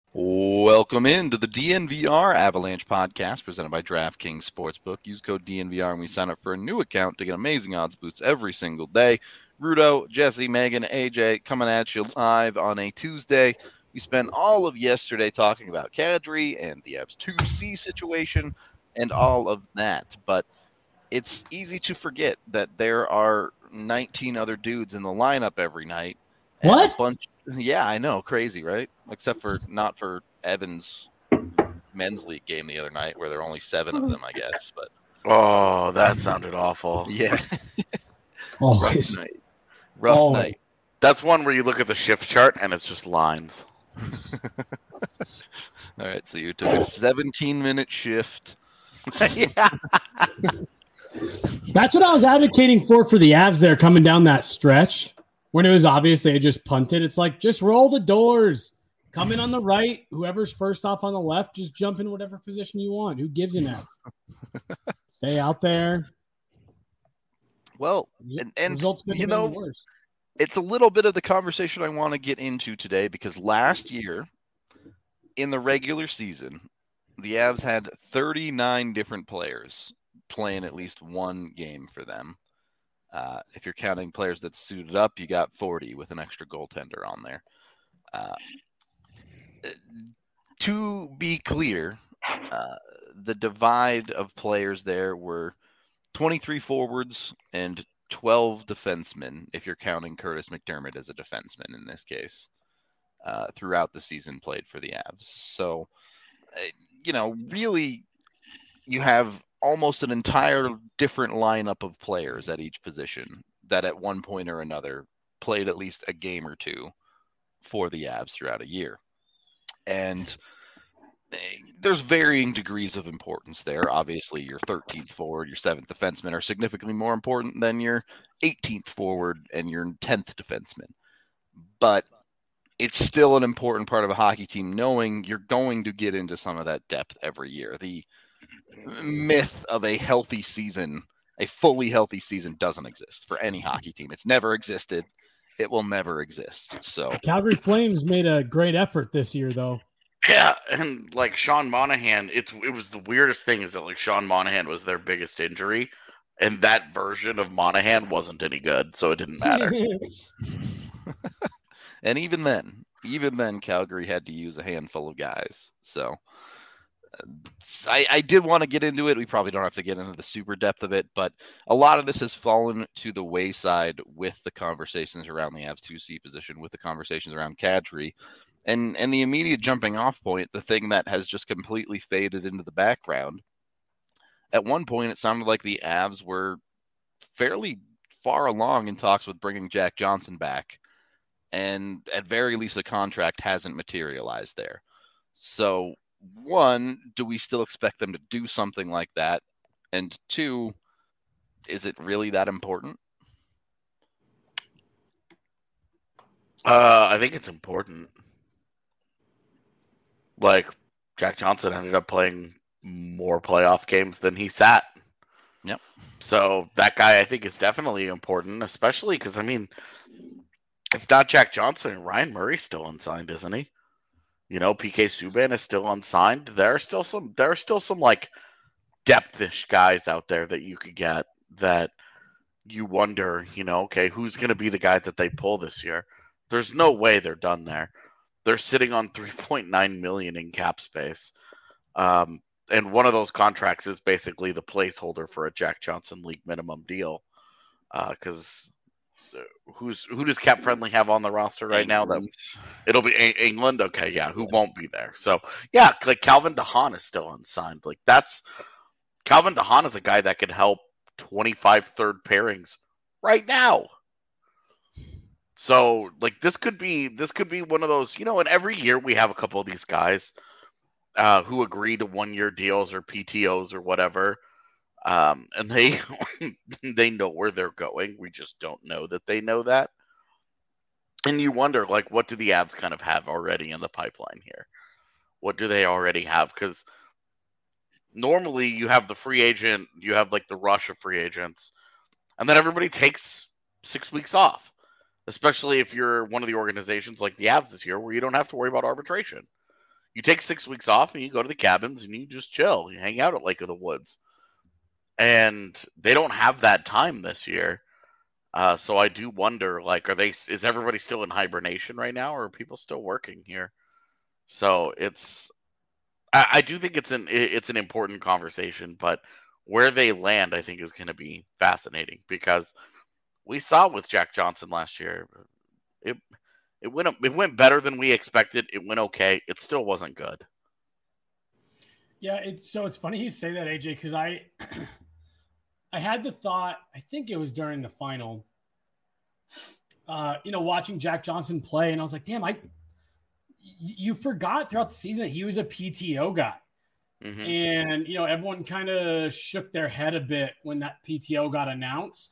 Welcome into the DNVR Avalanche podcast presented by DraftKings Sportsbook. Use code DNVR when we sign up for a new account to get amazing odds boosts every single day. Rudo, Jesse, Megan, AJ coming at you live on a Tuesday. We spent all of yesterday talking about Kadri and the Avs 2C situation and all of that. But it's easy to forget that there are 19 other dudes in the lineup every night. And What? a bunch. Yeah, I know. Crazy, right? Except for not for Evans' men's league game the other night where there are only 7 of them, I guess. But Oh, that sounded awful. yeah. Always. Rough night. That's one where you look at the shift chart and it's just lines. All right, so you took a 17-minute shift. Yeah. That's what I was advocating for the Avs there coming down that stretch when it was obvious they had just punted. It's like, just roll the doors. Come in on the right. Whoever's first off on the left, just jump in whatever position you want. Who gives an F? Stay out there. Well, and you know, it's a little bit of the conversation I want to get into today because last year in the regular season, the Avs had 39 different players playing at least one game for them. If you're counting players that suited up, you got 40 with an extra goaltender on there. To be clear, the divide of players there were 23 forwards and 12 defensemen, if you're counting Curtis McDermott as a defenseman in this case, throughout the season played for the Avs. So, really, you have almost an entire different lineup of players at each position that at one point or another played at least a game or two for the Avs throughout a year. And there's varying degrees of importance there. Obviously, your 13th forward, your 7th defenseman are significantly more important than your 18th forward and your 10th defenseman. But it's still an important part of a hockey team knowing you're going to get into some of that depth every year. The myth of a healthy season, a fully healthy season, doesn't exist for any hockey team. It's never existed. It will never exist. So Calgary Flames made a great effort this year, though. Yeah, and like Sean Monahan, it was the weirdest thing is that like Sean Monahan was their biggest injury, and that version of Monahan wasn't any good, so it didn't matter. And even then, Calgary had to use a handful of guys. So I did want to get into it. We probably don't have to get into the super depth of it, but a lot of this has fallen to the wayside with the conversations around the Avs 2C position, with the conversations around Kadri. And the immediate jumping off point, the thing that has just completely faded into the background. At one point, it sounded like the Avs were fairly far along in talks with bringing Jack Johnson back. And at very least, a contract hasn't materialized there. So, one, do we still expect them to do something like that? And two, is it really that important? I think it's important. Like, Jack Johnson ended up playing more playoff games than he sat. Yep. So that guy, I think, is definitely important, especially because, I mean, if not Jack Johnson, Ryan Murray's still unsigned, isn't he? You know, PK Subban is still unsigned. There are still some like depthish guys out there that you could get that you wonder, okay, who's going to be the guy that they pull this year? There's no way they're done there. They're sitting on $3.9 million in cap space. And one of those contracts is basically the placeholder for a Jack Johnson league minimum deal. Because who does Cap Friendly have on the roster right now? That it'll be England. Okay, yeah, who won't be there? So yeah, like Calvin DeHaan is still unsigned. Like Calvin DeHaan is a guy that could help 25 third pairings right now. So like this could be one of those, and every year we have a couple of these guys who agree to 1-year deals or PTOs or whatever. And they they know where they're going. We just don't know that they know that. And you wonder, like, what do the Avs kind of have already in the pipeline here? What do they already have? Because normally you have the free agent, you have like the rush of free agents, and then everybody takes 6 weeks off. Especially if you're one of the organizations like the Avs this year, where you don't have to worry about arbitration. You take 6 weeks off and you go to the cabins and you just chill. You hang out at Lake of the Woods. And they don't have that time this year. So I do wonder, like, is everybody still in hibernation right now, or are people still working here? So I do think it's an important conversation, but where they land, I think, is going to be fascinating, because we saw with Jack Johnson last year, it went better than we expected. It went okay. It still wasn't good. Yeah, it's funny you say that, AJ, because I had the thought, I think it was during the final, watching Jack Johnson play, and I was like, damn, you forgot throughout the season that he was a PTO guy. Mm-hmm. And, everyone kind of shook their head a bit when that PTO got announced.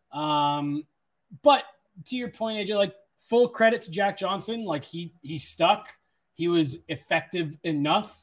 But to your point, AJ, like, full credit to Jack Johnson. Like, he stuck. He was effective enough.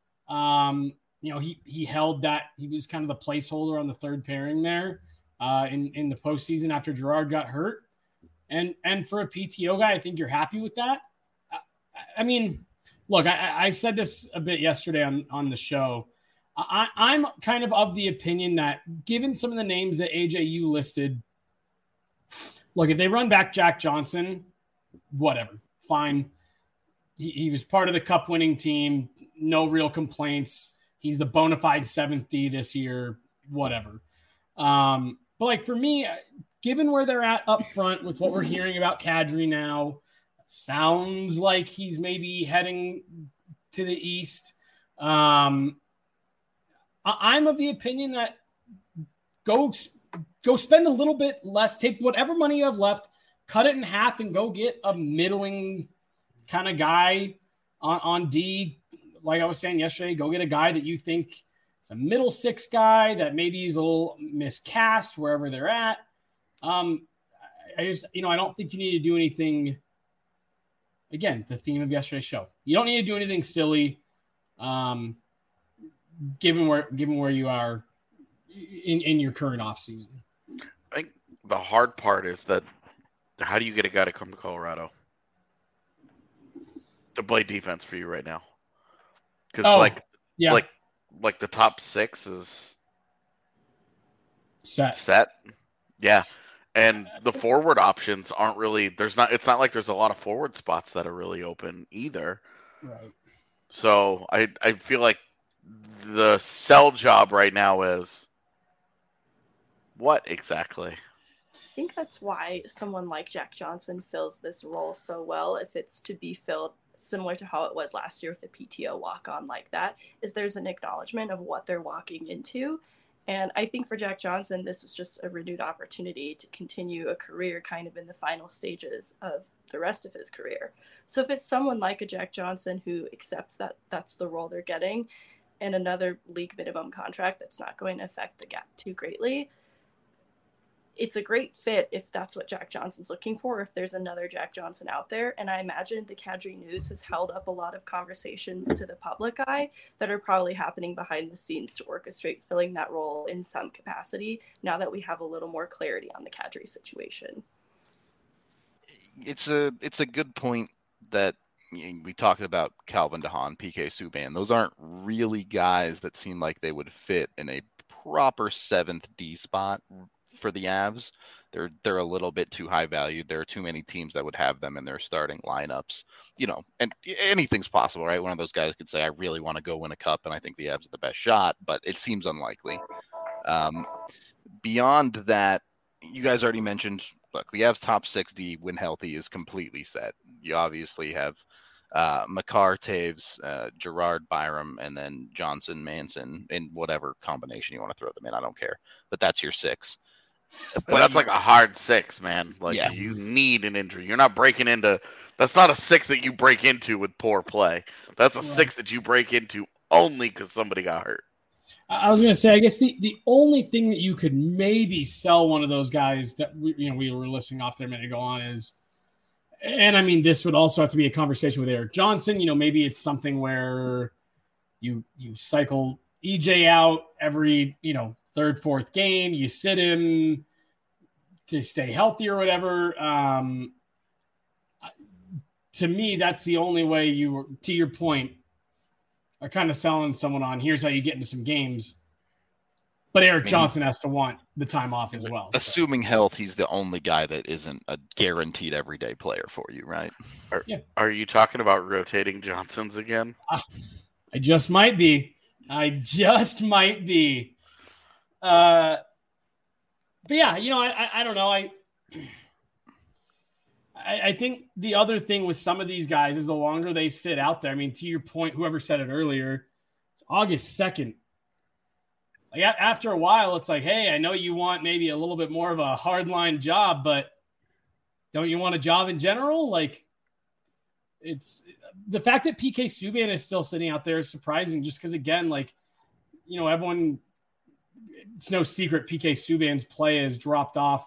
He held that. He was kind of the placeholder on the third pairing there in the postseason after Girard got hurt. And for a PTO guy, I think you're happy with that. I mean, look, I said this a bit yesterday on the show. I'm kind of the opinion that, given some of the names that AJ, you listed, look, if they run back Jack Johnson, whatever, fine. He was part of the cup winning team. No real complaints. He's the bona fide 7th D this year, whatever. But like, for me, given where they're at up front with what we're hearing about Kadri now, sounds like he's maybe heading to the East. I'm of the opinion that go spend a little bit less, take whatever money you have left, cut it in half, and go get a middling kind of guy on D. Like I was saying yesterday, go get a guy that you think is a middle 6 guy that maybe he's a little miscast wherever they're at. I don't think you need to do anything. Again, the theme of yesterday's show. You don't need to do anything silly, given where you are in your current offseason. I think the hard part is that, how do you get a guy to come to Colorado to play defense for you right now? Because like the top 6 is set. Yeah. And the forward options aren't really, it's not like there's a lot of forward spots that are really open either. Right. So I feel like the sell job right now is what exactly? I think that's why someone like Jack Johnson fills this role so well, if it's to be filled similar to how it was last year with the PTO walk-on like that, is there's an acknowledgement of what they're walking into. And I think for Jack Johnson, this was just a renewed opportunity to continue a career kind of in the final stages of the rest of his career. So if it's someone like a Jack Johnson who accepts that that's the role they're getting, and another league minimum contract that's not going to affect the gap too greatly, it's a great fit if that's what Jack Johnson's looking for, if there's another Jack Johnson out there. And I imagine the Kadri news has held up a lot of conversations to the public eye that are probably happening behind the scenes to orchestrate filling that role in some capacity, now that we have a little more clarity on the Kadri situation. It's a good point that we talked about Calvin DeHaan, PK Subban. Those aren't really guys that seem like they would fit in a proper 7th D spot for the Avs. They're a little bit too high valued. There are too many teams that would have them in their starting lineups, and anything's possible, right? One of those guys could say, I really want to go win a cup, and I think the Avs are the best shot, but it seems unlikely. Beyond that, you guys already mentioned, look, the Avs top 6D when healthy is completely set. You obviously have Makar, Taves, Girard, Byram, and then Johnson, Manson, in whatever combination you want to throw them in. I don't care, but that's your 6. But that's like a hard 6, man. Like, yeah. You need an injury. You're not breaking into. That's not a 6 that you break into with poor play. That's a 6 that you break into only because somebody got hurt. I was going to say, I guess the only thing that you could maybe sell one of those guys that we were listening off there a minute ago on is, and I mean, this would also have to be a conversation with Erik Johnson. Maybe it's something where you cycle EJ out every, 3rd, 4th game, you sit him to stay healthy or whatever. To me, that's the only way to your point, are kind of selling someone on here's how you get into some games. But Erik Johnson has to want the time off as well. Assuming health, he's the only guy that isn't a guaranteed everyday player for you, right? Are you talking about rotating Johnsons again? I just might be. But yeah, I don't know. I think the other thing with some of these guys is the longer they sit out there. I mean, to your point, whoever said it earlier, it's August 2nd. Like after a while, it's like, hey, I know you want maybe a little bit more of a hardline job, but don't you want a job in general? Like, it's the fact that PK Subban is still sitting out there is surprising, just because, again, like, everyone, it's no secret PK Subban's play has dropped off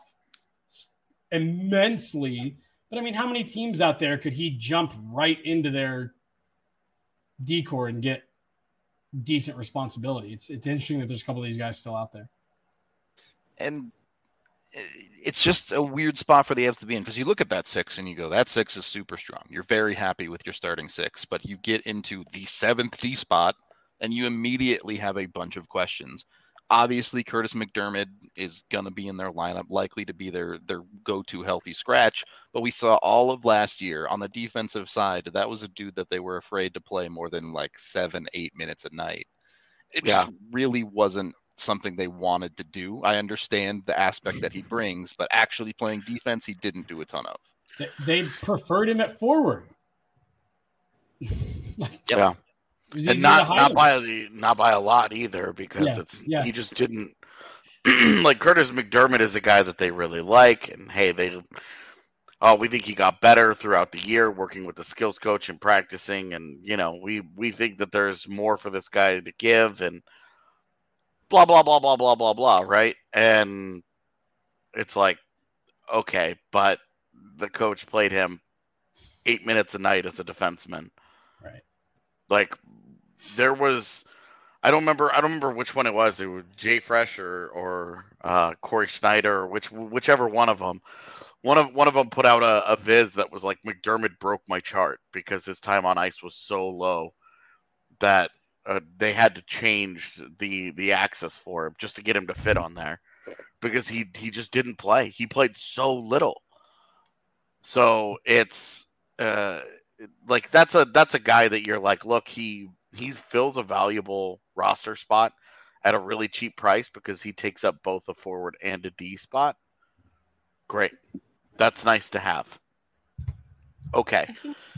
immensely. But I mean, how many teams out there could he jump right into their decor and get decent responsibility? It's interesting that there's a couple of these guys still out there. And it's just a weird spot for the Avs to be in, because you look at that 6 and you go, that 6 is super strong. You're very happy with your starting 6, but you get into the 7th D spot and you immediately have a bunch of questions. Obviously, Curtis McDermott is going to be in their lineup, likely to be their go-to healthy scratch. But we saw all of last year on the defensive side, that was a dude that they were afraid to play more than like 7-8 minutes a night. It just really wasn't something they wanted to do. I understand the aspect that he brings, but actually playing defense, he didn't do a ton of. They preferred him at forward. Yeah. And not by a lot either, because he just didn't like Curtis McDermott is a guy that they really like, and hey, we think he got better throughout the year working with the skills coach and practicing, and we think that there's more for this guy to give, and blah blah blah blah blah blah blah, right? And it's like, okay, but the coach played him 8 minutes a night as a defenseman, right? Like, there was, I don't remember which one it was. It was Jay Fresh or Corey Schneider, or whichever one of them. One of them put out a viz that was like, McDermott broke my chart because his time on ice was so low that they had to change the access for him just to get him to fit on there, because he just didn't play. He played so little. So it's like that's a guy that you're like, look, he fills a valuable roster spot at a really cheap price because he takes up both a forward and a D spot. Great. That's nice to have. Okay.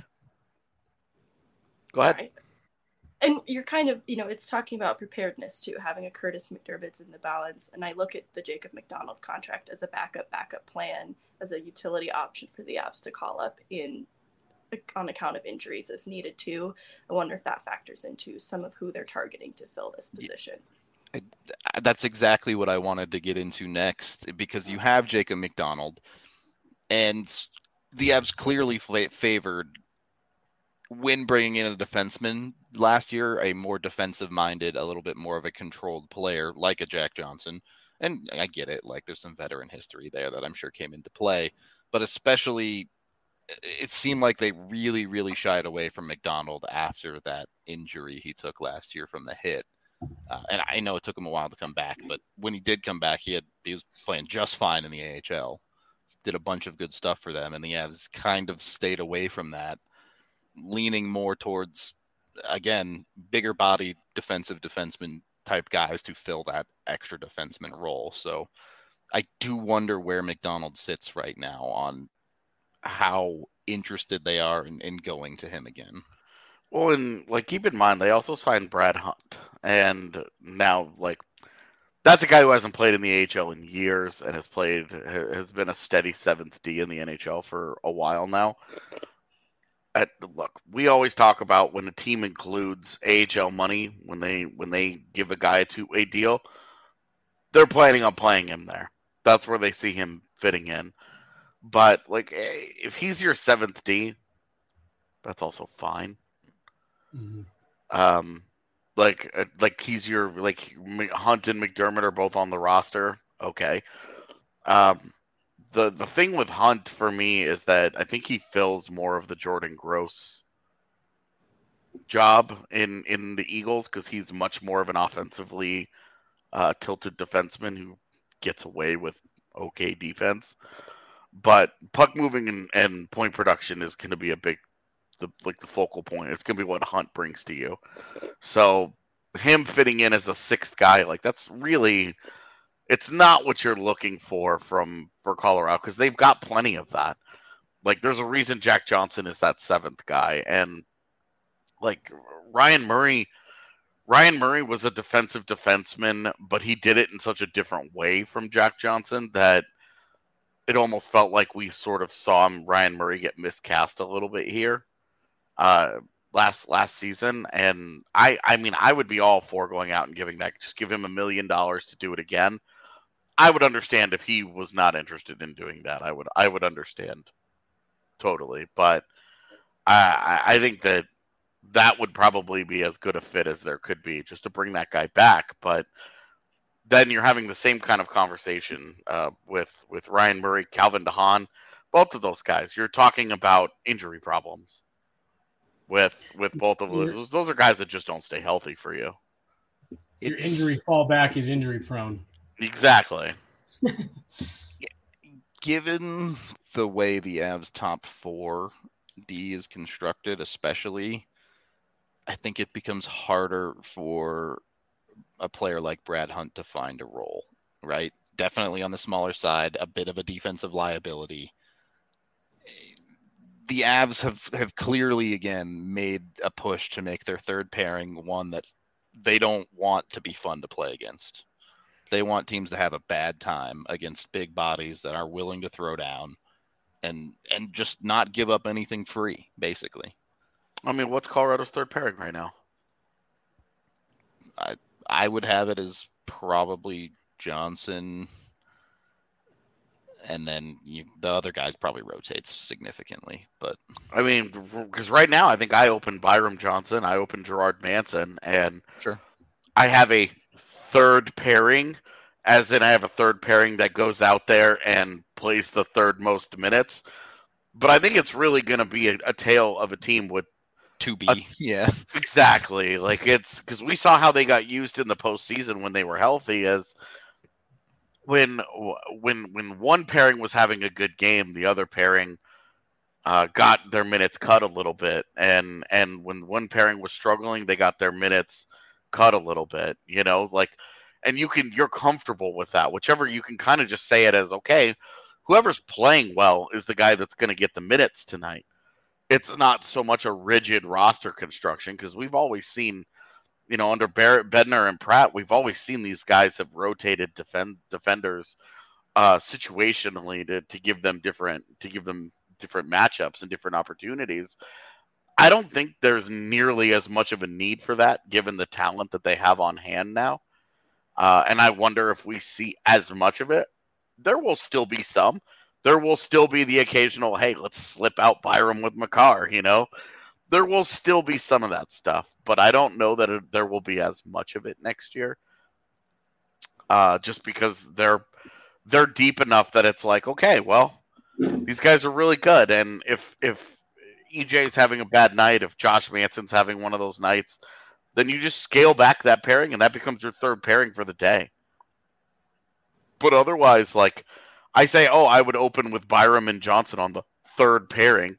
Go ahead. Right. And you're kind of, it's talking about preparedness too, having a Curtis McDermott's in the balance. And I look at the Jacob McDonald contract as a backup plan, as a utility option for the Avs to call up on account of injuries as needed too. I wonder if that factors into some of who they're targeting to fill this position. That's exactly what I wanted to get into next, because you have Jacob McDonald, and the Avs clearly favored, when bringing in a defenseman last year, a more defensive-minded, a little bit more of a controlled player like a Jack Johnson. And I get it, like there's some veteran history there that I'm sure came into play, but especially it seemed like they really, really shied away from McDonald after that injury he took last year from the hit. And I know it took him a while to come back, but when he did come back, he was playing just fine in the AHL, did a bunch of good stuff for them, and the Avs kind of stayed away from that, leaning more towards, again, bigger body defenseman type guys to fill that extra defenseman role. So I do wonder where McDonald sits right now on how interested they are in going to him again. Well, and keep in mind, they also signed Brad Hunt, and now that's a guy who hasn't played in the AHL in years and has been a steady 7th D in the NHL for a while now. Look, we always talk about when a team includes AHL money when they give a guy a deal, they're planning on playing him there. That's where they see him fitting in. But if he's your 7th D, that's also fine. Mm-hmm. He's your Hunt and McDermott are both on the roster. Okay. The thing with Hunt for me is that I think he fills more of the Jordan Gross job in the Eagles because he's much more of an offensively tilted defenseman who gets away with okay defense. But puck moving and point production is going to be the focal point. It's going to be what Hunt brings to you. So him fitting in as a sixth guy, like that's really, it's not what you're looking for Colorado because they've got plenty of that. Like there's a reason Jack Johnson is that seventh guy, and like Ryan Murray was a defensive defenseman, but he did it in such a different way from Jack Johnson that it almost felt like we sort of saw Ryan Murray get miscast a little bit here last season. And I mean, I would be all for going out and giving that, just give him $1 million to do it again. I would understand if he was not interested in doing that. I would understand totally, but I think that would probably be as good a fit as there could be just to bring that guy back. But then you're having the same kind of conversation with Ryan Murray, Calvin DeHaan, both of those guys. You're talking about injury problems with both of those. Those are guys that just don't stay healthy for you. Your injury fallback is injury prone. Exactly. Given the way the Avs top 4 D is constructed, especially, I think it becomes harder for a player like Brad Hunt to find a role, right? Definitely on the smaller side, a bit of a defensive liability. The Avs have clearly, again, made a push to make their third pairing one that they don't want to be fun to play against. They want teams to have a bad time against big bodies that are willing to throw down and just not give up anything free, basically. I mean, what's Colorado's third pairing right now? I would have it as probably Johnson, and then the other guys probably rotates significantly. But I mean, because right now I think I opened Byram Johnson, I opened Gerard Manson, and sure, I have a third pairing, as in I have a third pairing that goes out there and plays the third most minutes. But I think it's really going to be a tale of a team with 2B. Yeah, exactly. Like it's because we saw how they got used in the postseason when they were healthy, as when one pairing was having a good game, the other pairing got their minutes cut a little bit, and when one pairing was struggling, they got their minutes cut a little bit. You know, like, and you're comfortable with that. Whichever, you can kind of just say it as, okay, whoever's playing well is the guy that's going to get the minutes tonight. It's not so much a rigid roster construction because we've always seen, you know, under Barrett, Bednar, and Pratt, we've always seen these guys have rotated defenders situationally to give them different matchups and different opportunities. I don't think there's nearly as much of a need for that given the talent that they have on hand now. And I wonder if we see as much of it. There will still be some. There will still be the occasional, hey, let's slip out Byram with Makar, you know? There will still be some of that stuff, but I don't know that there will be as much of it next year. Just because they're deep enough that it's like, okay, well, these guys are really good, and if EJ's having a bad night, if Josh Manson's having one of those nights, then you just scale back that pairing, and that becomes your third pairing for the day. But otherwise, like, I say, I would open with Byram and Johnson on the third pairing.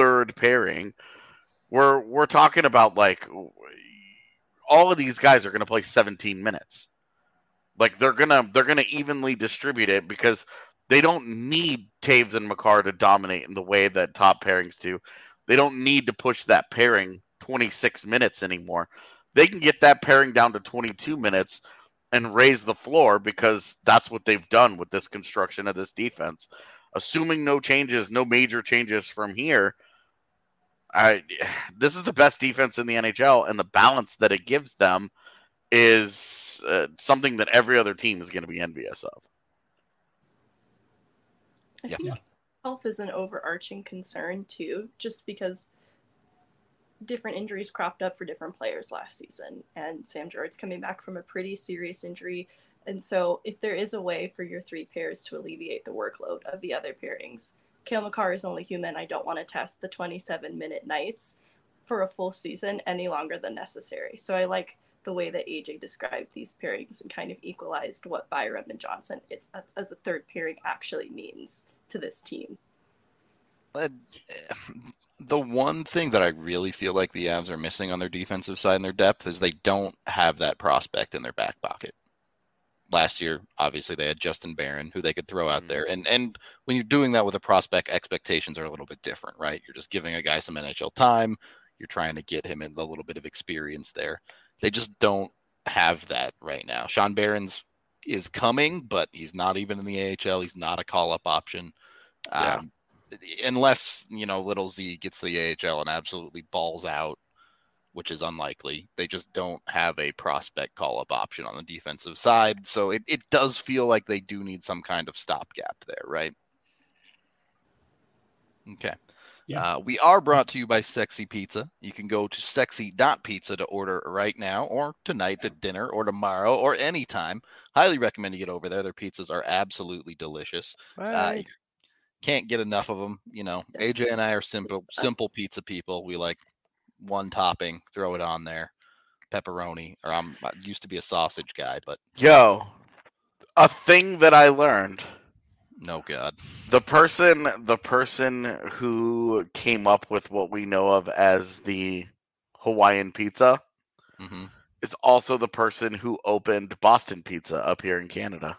We're talking about, like, all of these guys are going to play 17 minutes. Like, they're gonna evenly distribute it because they don't need Taves and Makar to dominate in the way that top pairings do. They don't need to push that pairing 26 minutes anymore. They can get that pairing down to 22 minutes and raise the floor because that's what they've done with this construction of this defense. Assuming no major changes from here, this is the best defense in the NHL, and the balance that it gives them is something that every other team is going to be envious of. I think health is an overarching concern too, just because different injuries cropped up for different players last season, and Sam Girard's coming back from a pretty serious injury. And so if there is a way for your three pairs to alleviate the workload of the other pairings, Cale Makar is only human. I don't want to test the 27-minute nights for a full season any longer than necessary. So I like the way that AJ described these pairings and kind of equalized what Byram and Johnson is as a third pairing actually means to this team. The one thing that I really feel like the Avs are missing on their defensive side and their depth is they don't have that prospect in their back pocket. Last year, obviously, they had Justin Barron, who they could throw out there. And when you're doing that with a prospect, expectations are a little bit different, right? You're just giving a guy some NHL time. You're trying to get him in a little bit of experience there. They just don't have that right now. Sean Barron's is coming, but he's not even in the AHL. He's not a call-up option. Yeah. Unless, little Z gets the AHL and absolutely balls out, which is unlikely. They just don't have a prospect call-up option on the defensive side. So it does feel like they do need some kind of stopgap there, right? Okay. Yeah. We are brought to you by Sexy Pizza. You can go to sexy.pizza to order right now or tonight at dinner or tomorrow or anytime. Highly recommend you get over there. Their pizzas are absolutely delicious. Can't get enough of them. AJ and I are simple pizza people. We like one topping, throw it on there, pepperoni, or I used to be a sausage guy, but a thing that I learned. No God. The person who came up with what we know of as the Hawaiian pizza is also the person who opened Boston Pizza up here in Canada.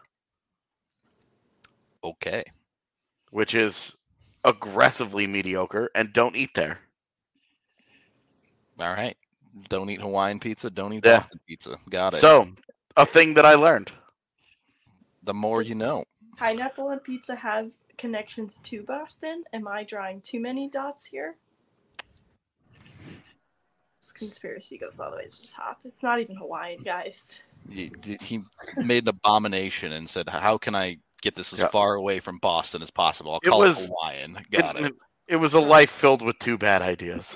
Okay. Which is aggressively mediocre, and don't eat there. All right. Don't eat Hawaiian pizza. Don't eat Boston pizza. Got it. So, a thing that I learned. The more you know. Pineapple and pizza have connections to Boston. Am I drawing too many dots here? This conspiracy goes all the way to the top. It's not even Hawaiian, guys. He made an abomination and said, how can I get this as far away from Boston as possible? I'll call it Hawaiian. Got it. It was a life filled with two bad ideas.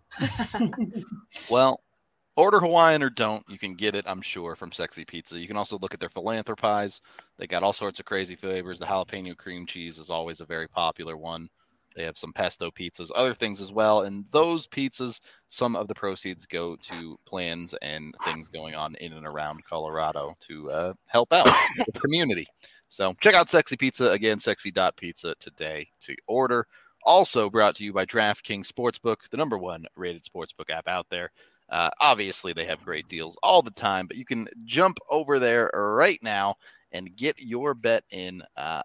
Well, order Hawaiian or don't. You can get it, I'm sure, from Sexy Pizza. You can also look at their philanthropies. They got all sorts of crazy flavors. The jalapeno cream cheese is always a very popular one. They have some pesto pizzas, other things as well. And those pizzas, some of the proceeds go to plans and things going on in and around Colorado to help out the community. So check out Sexy Pizza. Again, sexy.pizza today to order. Also brought to you by DraftKings Sportsbook, the #1 rated sportsbook app out there. Obviously, they have great deals all the time, but you can jump over there right now and get your bet in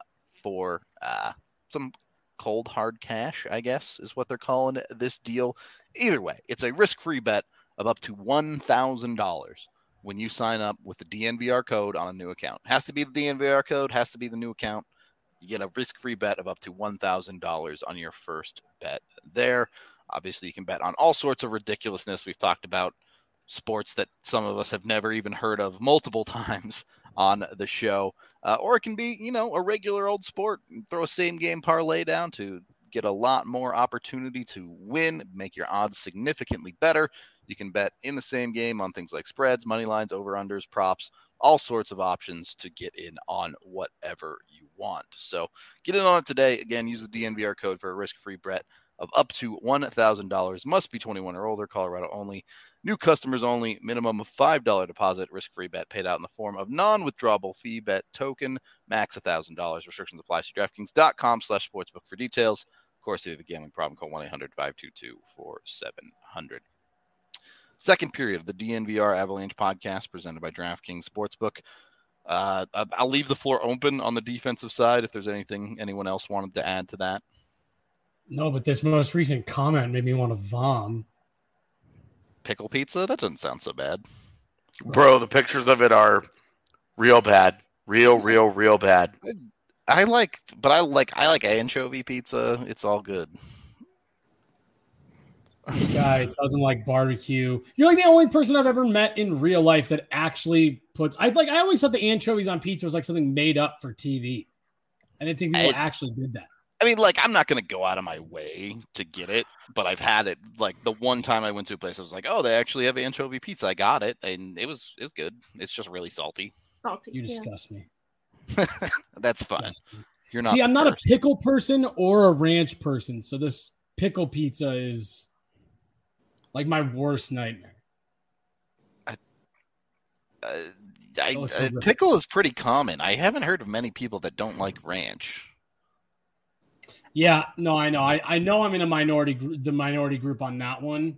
for some cold hard cash, I guess, is what they're calling this deal. Either way, it's a risk-free bet of up to $1,000 when you sign up with the DNVR code on a new account. Has to be the DNVR code, has to be the new account. You get a risk-free bet of up to $1,000 on your first bet there. Obviously, you can bet on all sorts of ridiculousness. We've talked about sports that some of us have never even heard of multiple times on the show. Or it can be, a regular old sport. Throw a same-game parlay down to get a lot more opportunity to win, make your odds significantly better. You can bet in the same game on things like spreads, money lines, over-unders, props, all sorts of options to get in on whatever you want. So get in on it today. Again, use the DNVR code for a risk-free bet of up to $1,000. Must be 21 or older, Colorado only. New customers only. Minimum of $5 deposit. Risk-free bet paid out in the form of non-withdrawable fee bet token. Max $1,000. Restrictions apply. See DraftKings.com/sportsbook for details. Of course, if you have a gambling problem, call 1-800-522-4700. Second period of the DNVR Avalanche podcast presented by DraftKings Sportsbook. I'll leave the floor open on the defensive side if there's anything anyone else wanted to add to that. No, but this most recent comment made me want to vom. Pickle pizza? That doesn't sound so bad. Bro, the pictures of it are real bad. Real bad. I like anchovy pizza. It's all good. This guy doesn't like barbecue. You're like the only person I've ever met in real life that actually puts. I always thought the anchovies on pizza was like something made up for TV. I didn't think people actually did that. I mean, I'm not going to go out of my way to get it, but I've had it. Like, the one time I went to a place, I was like, oh, they actually have anchovy pizza. I got it, and it was good. It's just really salty. You disgust me. That's fine. You're not. See, I'm not a pickle person or a ranch person, so this pickle pizza is Like my worst nightmare. Pickle is pretty common. I haven't heard of many people that don't like ranch. Yeah, no, I know. I know I'm in the minority group on that one.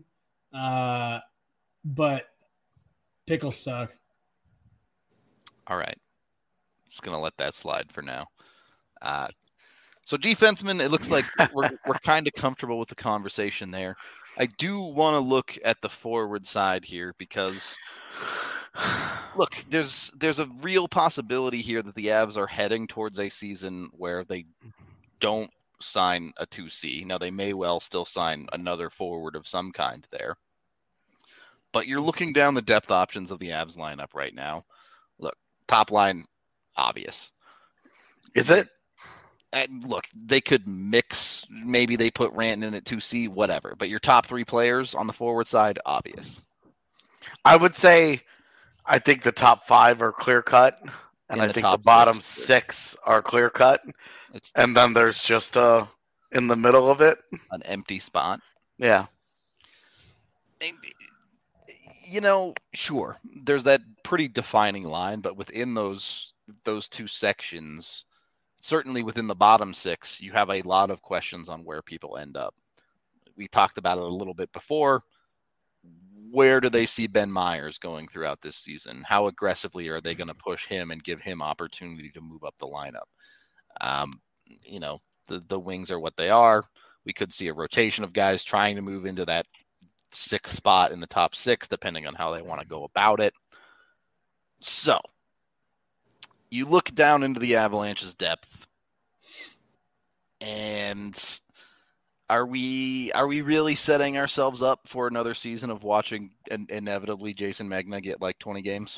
But pickles suck. All right. Just going to let that slide for now. So defensemen, it looks like we're kind of comfortable with the conversation there. I do want to look at the forward side here because look, there's a real possibility here that the Avs are heading towards a season where they don't sign a 2C. Now, they may well still sign another forward of some kind there. But you're looking down the depth options of the Avs lineup right now. Look, top line, obvious. Is it? Look, they could mix. Maybe they put Rantanen in at 2C, whatever. But your top three players on the forward side, obvious. I would say I think the top 5 are clear cut. And I think the bottom 6 are clear cut. And then there's just in the middle of it an empty spot. Yeah. You know, sure, there's that pretty defining line, but within those two sections, certainly within the bottom 6, you have a lot of questions on where people end up. We talked about it a little bit before. Where do they see Ben Myers going throughout this season? How aggressively are they going to push him and give him opportunity to move up the lineup? You know, the wings are what they are. We could see a rotation of guys trying to move into that 6th spot in the top 6, depending on how they want to go about it. So, you look down into the Avalanche's depth, and are we really setting ourselves up for another season of watching inevitably Jason Megna get like 20 games?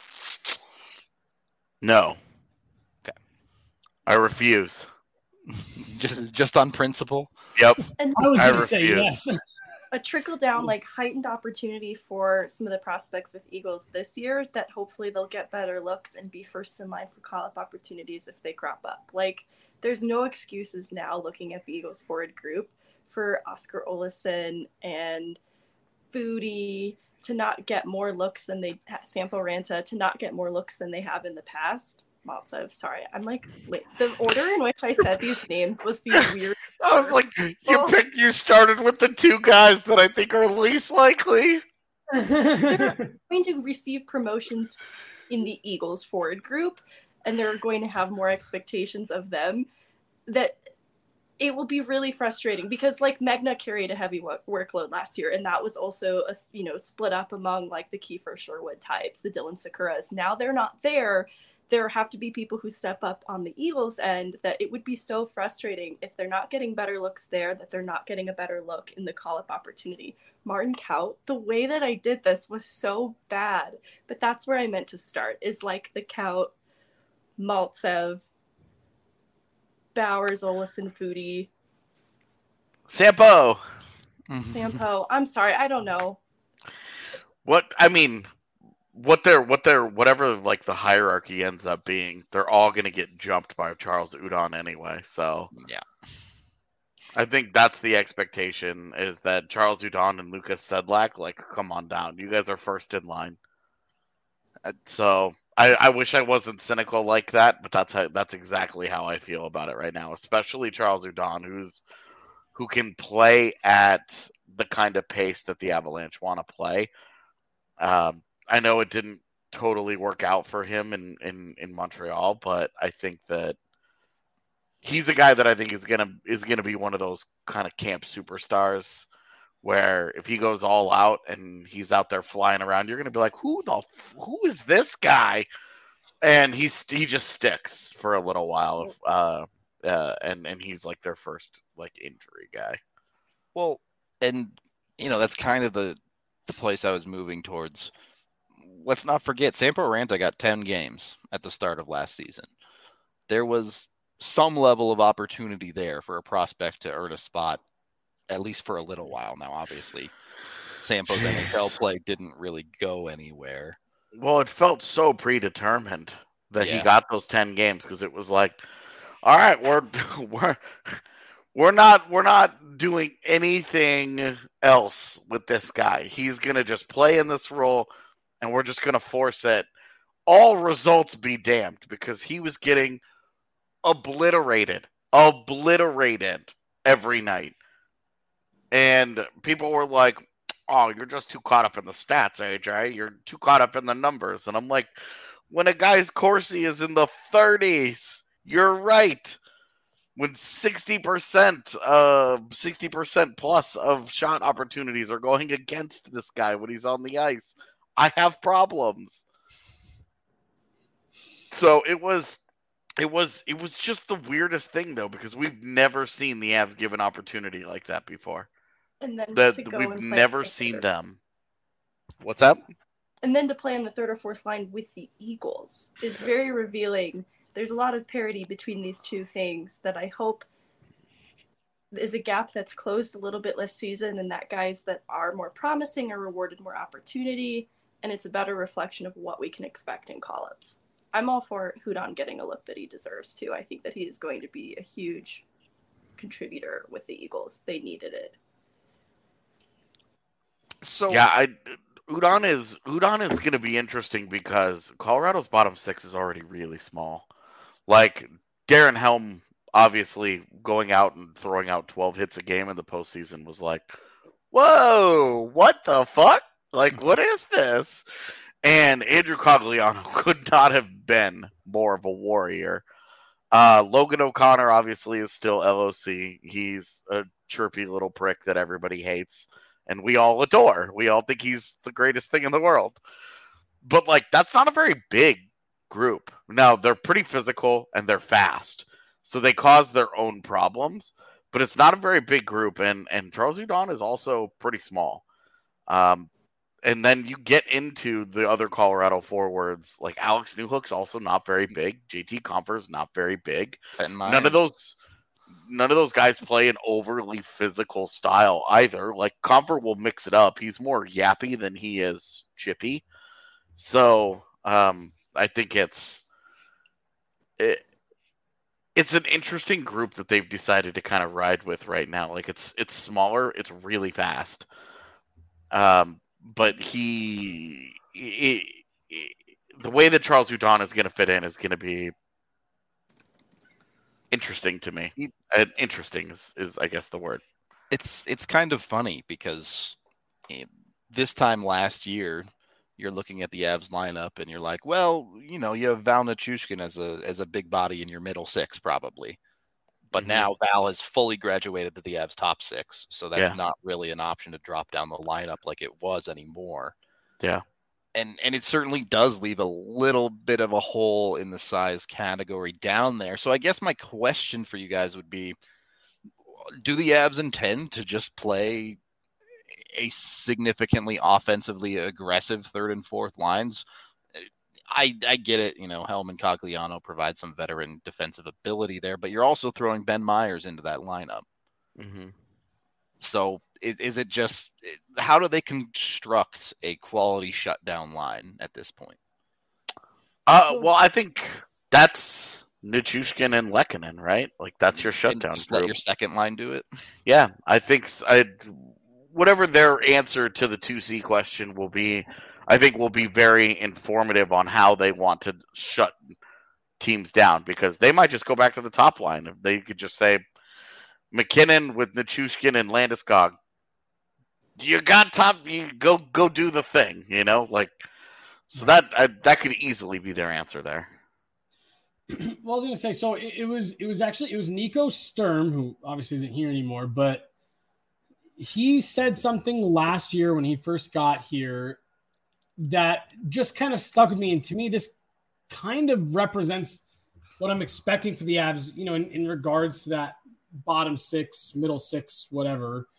No. Okay. I refuse. just on principle? Yep. And I was going to say yes. A trickle down, like heightened opportunity for some of the prospects with Eagles this year that hopefully they'll get better looks and be first in line for call-up opportunities if they crop up. Like, there's no excuses now looking at the Eagles forward group for Oscar Olesen and Foodie to not get more looks than Sampo Ranta to not get more looks than they have in the past. Maltsev, sorry. I'm like, wait, the order in which I said these names was the weird. I was like, you started with the 2 guys that I think are least likely. They're going to receive promotions in the Eagles forward group, and they're going to have more expectations of them that it will be really frustrating because like Megna carried a heavy workload last year, and that was also split up among like the Kiefer Sherwood types, the Dylan Sakuras. Now they're not there. There have to be people who step up on the Eagles end that it would be so frustrating if they're not getting better looks there, that they're not getting a better look in the call-up opportunity. Martin Kaut, the way that I did this was so bad, but that's where I meant to start, is like the Kaut, Maltsev, Bowers, Olesen, Foodie. Sampo. Sampo. I'm sorry, I don't know. Whatever like the hierarchy ends up being, they're all going to get jumped by Charles Udon anyway. So yeah, I think that's the expectation, is that Charles Udon and Lucas Sedlak, like, come on down. You guys are first in line. So I wish I wasn't cynical like that, but that's exactly how I feel about it right now. Especially Charles Udon, who can play at the kind of pace that the Avalanche want to play. I know it didn't totally work out for him in Montreal, but I think that he's a guy that I think is gonna be one of those kind of camp superstars where if he goes all out and he's out there flying around, you're gonna be like, who is this guy? And he just sticks for a little while, and he's like their first like injury guy. Well, and that's kind of the place I was moving towards. Let's not forget, Sampo Ranta got 10 games at the start of last season. There was some level of opportunity there for a prospect to earn a spot, at least for a little while now. Obviously, Sampo's NHL play didn't really go anywhere. Well, it felt so predetermined that he got those 10 games because it was like, all right, we're We're not doing anything else with this guy. He's gonna just play in this role, and we're just gonna force it. All results be damned, because he was getting obliterated every night. And people were like, "Oh, you're just too caught up in the stats, AJ. You're too caught up in the numbers." And I'm like, when a guy's Corsi is in the 30s, you're right. When 60% plus of shot opportunities are going against this guy when he's on the ice, I have problems. So it was just the weirdest thing, though, because we've never seen the Avs give an opportunity like that before. And then We've never seen them. What's up? And then to play on the third or fourth line with the Eagles is very revealing. There's a lot of parity between these two things that I hope is a gap that's closed a little bit this season, and that guys that are more promising are rewarded more opportunity, and it's a better reflection of what we can expect in call-ups. I'm all for Hudon getting a look that he deserves too. I think that he is going to be a huge contributor with the Eagles. They needed it. So yeah, Udon is going to be interesting because Colorado's bottom six is already really small. Like Darren Helm, obviously going out and throwing out 12 hits a game in the postseason was like, whoa, what the fuck? Like, what is this? And Andrew Cogliano could not have been more of a warrior. Logan O'Connor obviously is still LOC. He's a chirpy little prick that everybody hates, and we all adore. We all think he's the greatest thing in the world. But, like, that's not a very big group. Now, they're pretty physical, and they're fast. So they cause their own problems. But it's not a very big group, and Charles Hudon is also pretty small. And then you get into the other Colorado forwards, like Alex Newhook's also not very big. JT Compher's not very big. None of those guys play an overly physical style either. Like Compher will mix it up. He's more yappy than he is chippy. So I think it's an interesting group that they've decided to kind of ride with right now. Like it's smaller, it's really fast. But the way that Charles Hudon is going to fit in is going to be interesting to me. Interesting is I guess the word. It's kind of funny because this time last year, you're looking at the Avs lineup and you're like, well, you know, you have Val Nichushkin as a big body in your middle six probably. But now Val has fully graduated to the Avs top six, so that's not really an option to drop down the lineup like it was anymore. Yeah. And it certainly does leave a little bit of a hole in the size category down there. So I guess my question for you guys would be, do the Avs intend to just play a significantly offensively aggressive third and fourth lines? I get it, you know, Helm and Cogliano provide some veteran defensive ability there, but you're also throwing Ben Myers into that lineup. Mm-hmm. So is it just, how do they construct a quality shutdown line at this point? Well, I think that's Nichushkin and Lehkonen, right? Like that's your shutdown. Just let your second line do it. Yeah, I think whatever their answer to the 2C question will be, I think will be very informative on how they want to shut teams down, because they might just go back to the top line. If they could just say McKinnon with Nichushkin and Landeskog, you got top, you go do the thing, you know, like, so that could easily be their answer there. Well, I was going to say, so it was Nico Sturm, who obviously isn't here anymore, but he said something last year when he first got here that just kind of stuck with me. And to me, this kind of represents what I'm expecting for the Avs, you know, in regards to that bottom six, middle six, whatever.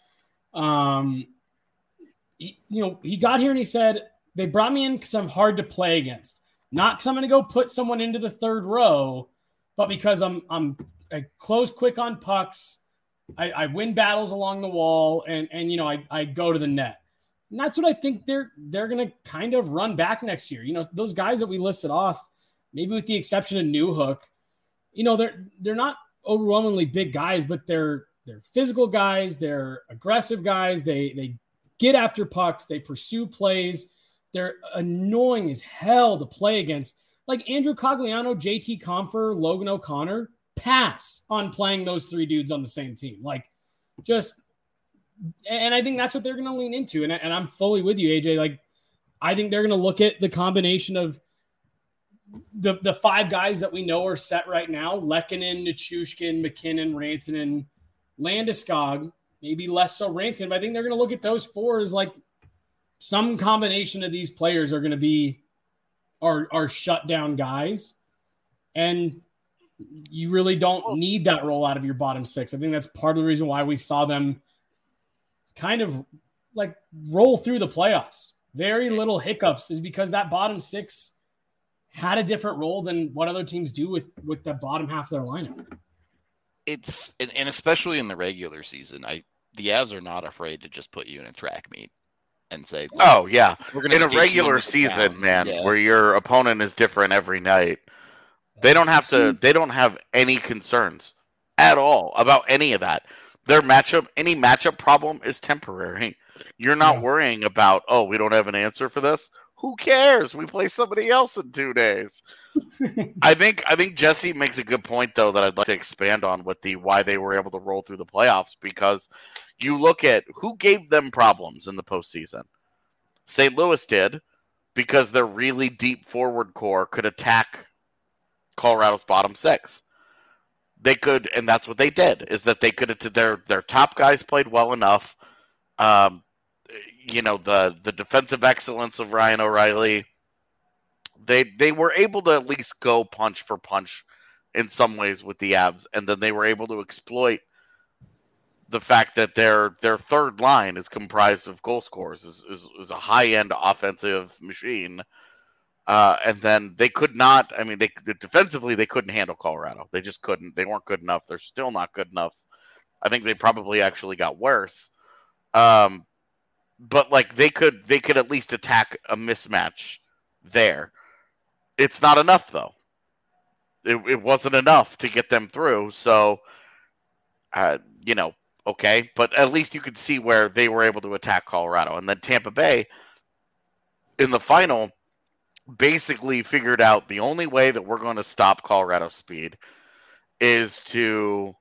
He got here and he said, they brought me in because I'm hard to play against. Not because I'm going to go put someone into the third row, but because I close quick on pucks. I win battles along the wall and you know, I go to the net. And that's what I think they're going to kind of run back next year. You know, those guys that we listed off, maybe with the exception of Newhook, you know, they're not overwhelmingly big guys, but they're physical guys, they're aggressive guys, they get after pucks, they pursue plays. They're annoying as hell to play against. Like Andrew Cogliano, JT Compher, Logan O'Connor, pass on playing those three dudes on the same team. Like, just, and I think that's what they're going to lean into. And I'm fully with you, AJ. Like, I think they're going to look at the combination of the five guys that we know are set right now: Lehkonen, Nichushkin, McKinnon, Rantanen, Landeskog, maybe less so Rantanen. But I think they're going to look at those four as like some combination of these players are going to be our shutdown guys. And you really don't need that roll out of your bottom six. I think that's part of the reason why we saw them kind of like roll through the playoffs. Very little hiccups is because that bottom six had a different role than what other teams do with the bottom half of their lineup. It's, and especially in the regular season, the Avs are not afraid to just put you in a track meet and say, oh yeah, we're gonna in a skate you regular into the season, ground. man, Yeah. where your opponent is different every night, they don't have any concerns at all about any of that. Any matchup problem is temporary. You're not worrying about, oh, we don't have an answer for this. Who cares? We play somebody else in 2 days. I think Jesse makes a good point, though, that I'd like to expand on with the why they were able to roll through the playoffs, because you look at who gave them problems in the postseason. St. Louis did, because their really deep forward core could attack Colorado's bottom six. They could, and that's what they did, is that they could, their top guys played well enough. The defensive excellence of Ryan O'Reilly, they were able to at least go punch for punch in some ways with the Avs, and then they were able to exploit the fact that their third line is comprised of goal scorers, is a high-end offensive machine. And then they could not, defensively, they couldn't handle Colorado. They just couldn't. They weren't good enough. They're still not good enough. I think they probably actually got worse. But like they could at least attack a mismatch there. It's not enough, though. It wasn't enough to get them through. So, okay. But at least you could see where they were able to attack Colorado. And then Tampa Bay, in the final, basically figured out the only way that we're going to stop Colorado's speed is to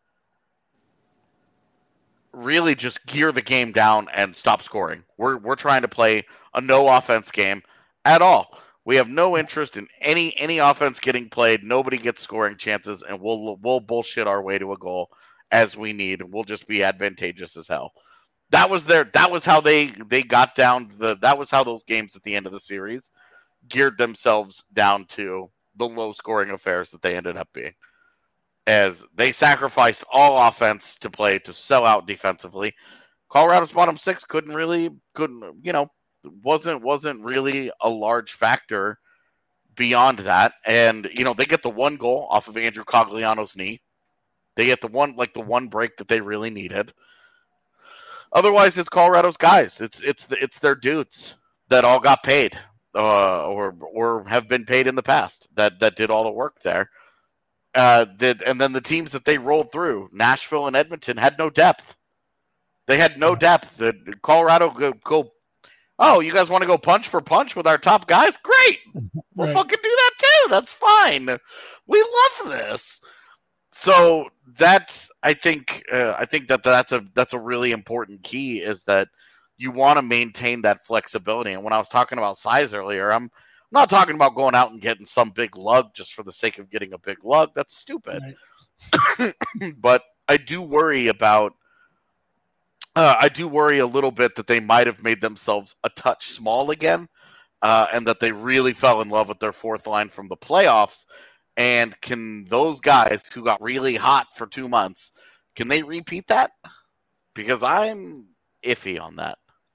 really just gear the game down and stop scoring. We're trying to play a no offense game at all. We have no interest in any offense getting played. Nobody gets scoring chances, and we'll bullshit our way to a goal as we need, and we'll just be advantageous as hell. That was how they got down that was how those games at the end of the series geared themselves down to the low scoring affairs that they ended up being, as they sacrificed all offense to play to sell out defensively. Colorado's bottom six wasn't really a large factor beyond that. And they get the one goal off of Andrew Cogliano's knee. They get the one break that they really needed. Otherwise, it's Colorado's guys. It's their dudes that all got paid. Or have been paid in the past that did all the work there. And then the teams that they rolled through, Nashville and Edmonton, had no depth. They had no depth. Colorado go. Oh, you guys want to go punch for punch with our top guys? Great, we'll fucking do that too. That's fine. We love this. So I think that's a really important key, is that you want to maintain that flexibility. And when I was talking about size earlier, I'm not talking about going out and getting some big lug just for the sake of getting a big lug. That's stupid. Right. But I do worry a little bit that they might have made themselves a touch small again, and that they really fell in love with their fourth line from the playoffs. And can those guys who got really hot for 2 months, can they repeat that? Because I'm iffy on that.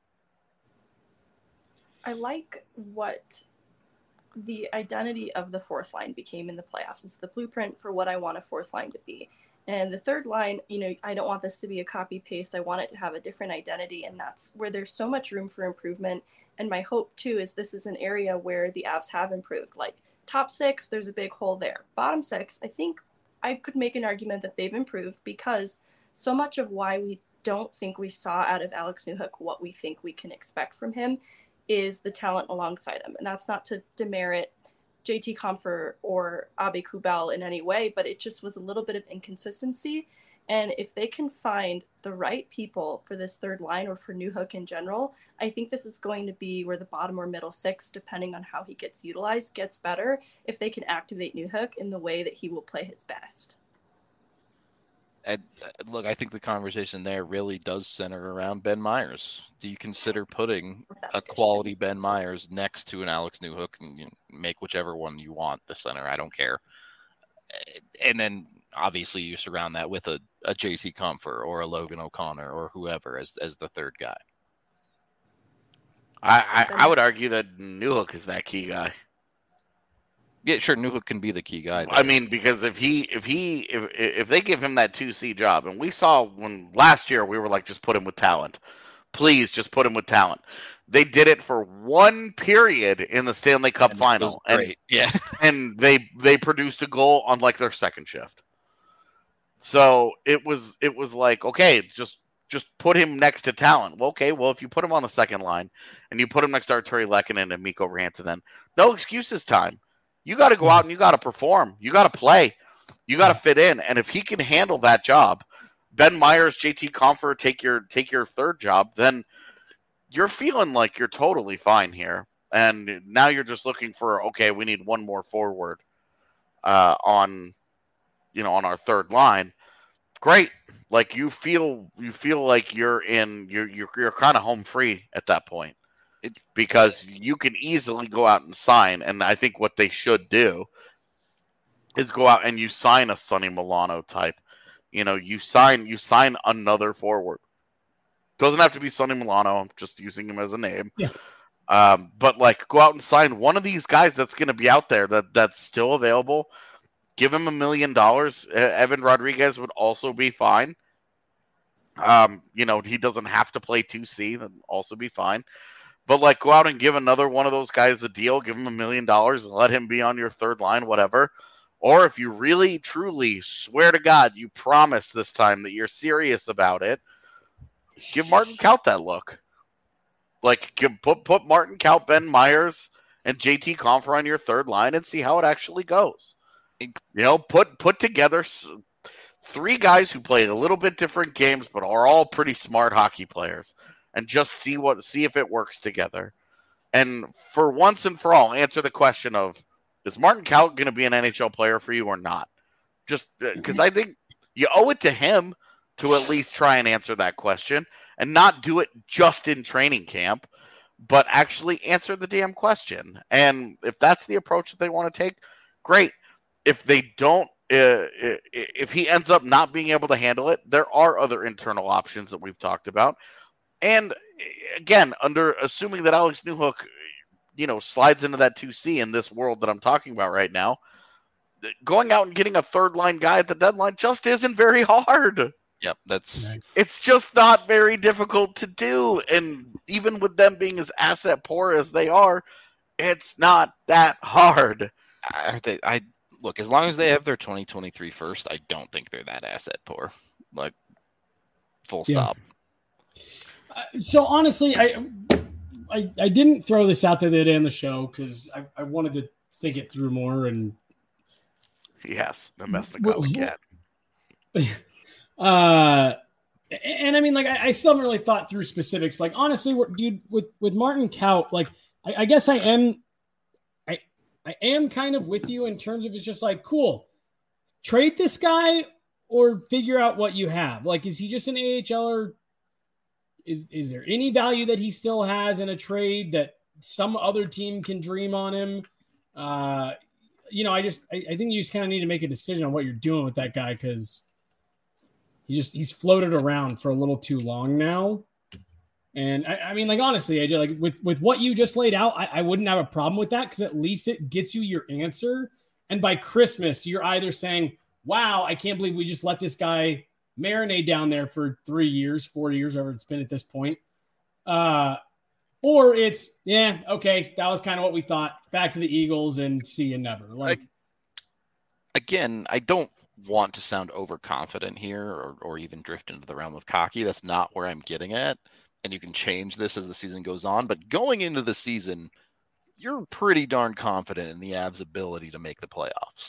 I like what the identity of the fourth line became in the playoffs. It's the blueprint for what I want a fourth line to be. And the third line, I don't want this to be a copy paste. I want it to have a different identity. And that's where there's so much room for improvement. And my hope too is this is an area where the Avs have improved. Like top six, there's a big hole there. Bottom six, I think I could make an argument that they've improved, because so much of why we don't think we saw out of Alex Newhook what we think we can expect from him is the talent alongside him. And that's not to demerit JT Compher or Abe Kubel in any way, but it just was a little bit of inconsistency. And if they can find the right people for this third line or for Newhook in general, I think this is going to be where the bottom or middle six, depending on how he gets utilized, gets better if they can activate Newhook in the way that he will play his best. And look, I think the conversation there really does center around Ben Meyers. Do you consider putting a quality Ben Meyers next to an Alex Newhook and make whichever one you want the center? I don't care. And then obviously you surround that with a JT Compher or a Logan O'Connor or whoever as the third guy. I would argue that Newhook is that key guy. Yeah, sure. Newhook can be the key guy there. I mean, because if they give him that 2C job, and we saw when last year we were like, just put him with talent. Please just put him with talent. They did it for one period in the Stanley Cup final. Great. And they produced a goal on like their second shift. So it was like, okay, just put him next to talent. Well, okay, if you put him on the second line and you put him next to Arturi Lehkonen and Mikko Rantanen, no excuses time. You got to go out and you got to perform. You got to play. You got to fit in. And if he can handle that job, Ben Meyers, JT Compher take your third job, then you're feeling like you're totally fine here. And now you're just looking for, okay, we need one more forward on our third line. Great. Like you feel like you're kind of home free at that point. Because you can easily go out and sign, and I think what they should do is go out and you sign a Sonny Milano type. You sign another forward. Doesn't have to be Sonny Milano. I'm just using him as a name. Yeah. But like, go out and sign one of these guys that's going to be out there that's still available. Give him $1 million. Evan Rodriguez would also be fine. He doesn't have to play 2C. That'd also be fine. But, like, go out and give another one of those guys a deal, give him $1 million and let him be on your third line, whatever. Or if you really, truly swear to God, you promise this time that you're serious about it, give Martin Kaut that look. Like, put Martin Kaut, Ben Meyers, and JT Compher on your third line and see how it actually goes. Put together three guys who play a little bit different games but are all pretty smart hockey players. And just see if it works together. And for once and for all, answer the question of, is Martin Kaut going to be an NHL player for you or not? Just because I think you owe it to him to at least try and answer that question and not do it just in training camp, but actually answer the damn question. And if that's the approach that they want to take, great. If they don't, if he ends up not being able to handle it, there are other internal options that we've talked about. And again, assuming that Alex Newhook, slides into that 2C in this world that I'm talking about right now, going out and getting a third line guy at the deadline just isn't very hard. Yep, it's just not very difficult to do. And even with them being as asset poor as they are, it's not that hard. Look, as long as they have their 2023 first, I don't think they're that asset poor. Like, full stop. So honestly, I didn't throw this out there the other day on the show because I wanted to think it through more. And yes, the Mesnikov again. And I mean, like, I still haven't really thought through specifics. Like, honestly, dude, with Martin Kaut, like, I guess I am kind of with you in terms of it's just like, cool, trade this guy or figure out what you have. Like, is he just an AHLer? Is there any value that he still has in a trade that some other team can dream on him? I think you just kind of need to make a decision on what you're doing with that guy because he's floated around for a little too long now. And I mean, like, honestly, AJ, like with what you just laid out, I wouldn't have a problem with that because at least it gets you your answer. And by Christmas, you're either saying, wow, I can't believe we just let this guy marinate down there for 3 years, 4 years, whatever it's been at this point. Or it's, yeah, okay, that was kind of what we thought. Back to the Eagles and see you never. Like, again, I don't want to sound overconfident here or even drift into the realm of cocky. That's not where I'm getting at. And you can change this as the season goes on. But going into the season, you're pretty darn confident in the Avs' ability to make the playoffs,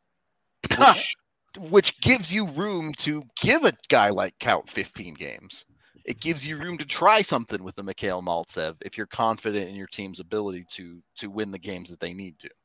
which gives you room to give a guy like Kaut 15 games. It gives you room to try something with the Mikhail Maltsev if you're confident in your team's ability to win the games that they need to.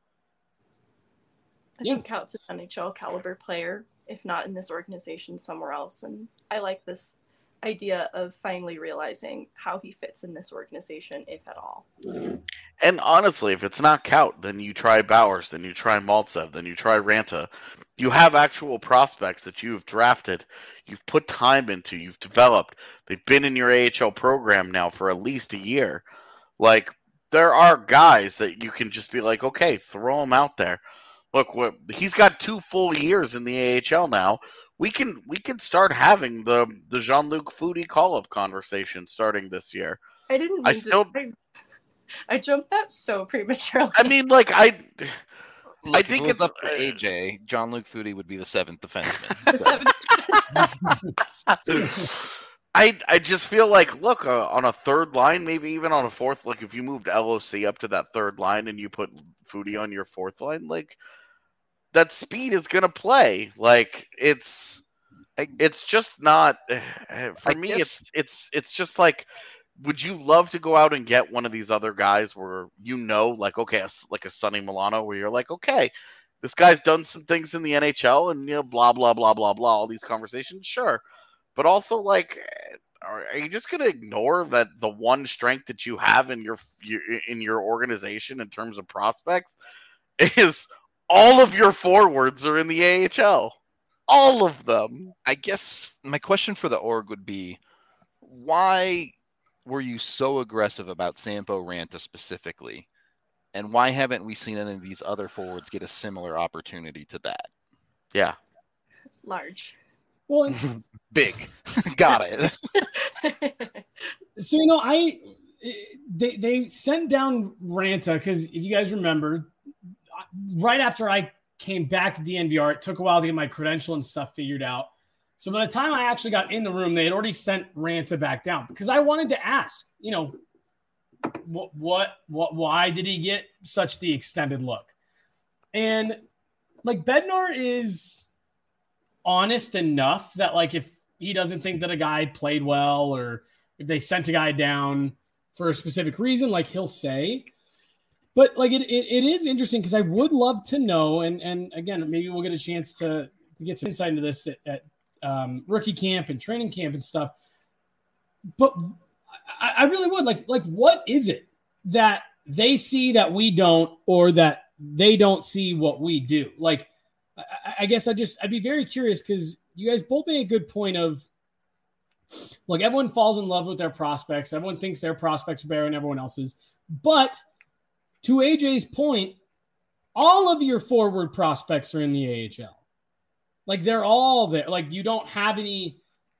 I think Kaut's an NHL caliber player, if not in this organization, somewhere else. And I like this idea of finally realizing how he fits in this organization, if at all. And honestly, if it's not Kaut, then you try Bowers, then you try Maltsev, then you try Ranta. You have actual prospects that you've drafted, you've put time into, you've developed. They've been in your AHL program now for at least a year. Like, there are guys that you can just be like, okay, throw them out there. Look, he's got 2 full years in the AHL now. We can start having the Jean-Luc Foudy call-up conversation starting this year. I didn't mean I jumped that so prematurely. I mean, like, I think it's up to AJ. Jean-Luc Foudy would be the 7th defenseman. The 7th I just feel like, look, on a third line, maybe even on a fourth, like if you moved LOC up to that third line and you put Foudy on your fourth line, like, that speed is going to play. Like, it's just not, for me, it's just like, would you love to go out and get one of these other guys where, like, okay, like a Sonny Milano, where you're like, okay, this guy's done some things in the NHL and, blah, blah, blah, blah, blah, all these conversations, sure. But also, like, are you just going to ignore that the one strength that you have in your organization in terms of prospects is all of your forwards are in the AHL? All of them. I guess my question for the org would be, why were you so aggressive about Sampo Ranta specifically? And why haven't we seen any of these other forwards get a similar opportunity to that? Yeah. Large. Well, big. Got it. So, they sent down Ranta because if you guys remember, right after I came back to DNVR, it took a while to get my credential and stuff figured out. So by the time I actually got in the room, they had already sent Ranta back down because I wanted to ask, why did he get such the extended look? And like Bednar is honest enough that like if he doesn't think that a guy played well or if they sent a guy down for a specific reason, like he'll say. But like it is interesting because I would love to know, and again, maybe we'll get a chance to get some insight into this at rookie camp and training camp and stuff. But I really would like what is it that they see that we don't, or that they don't see what we do? Like, I guess I'd be very curious because you guys both made a good point of, look, everyone falls in love with their prospects. Everyone thinks their prospects are better than everyone else's. But to AJ's point, all of your forward prospects are in the AHL. Like, they're all there. Like, you don't have any,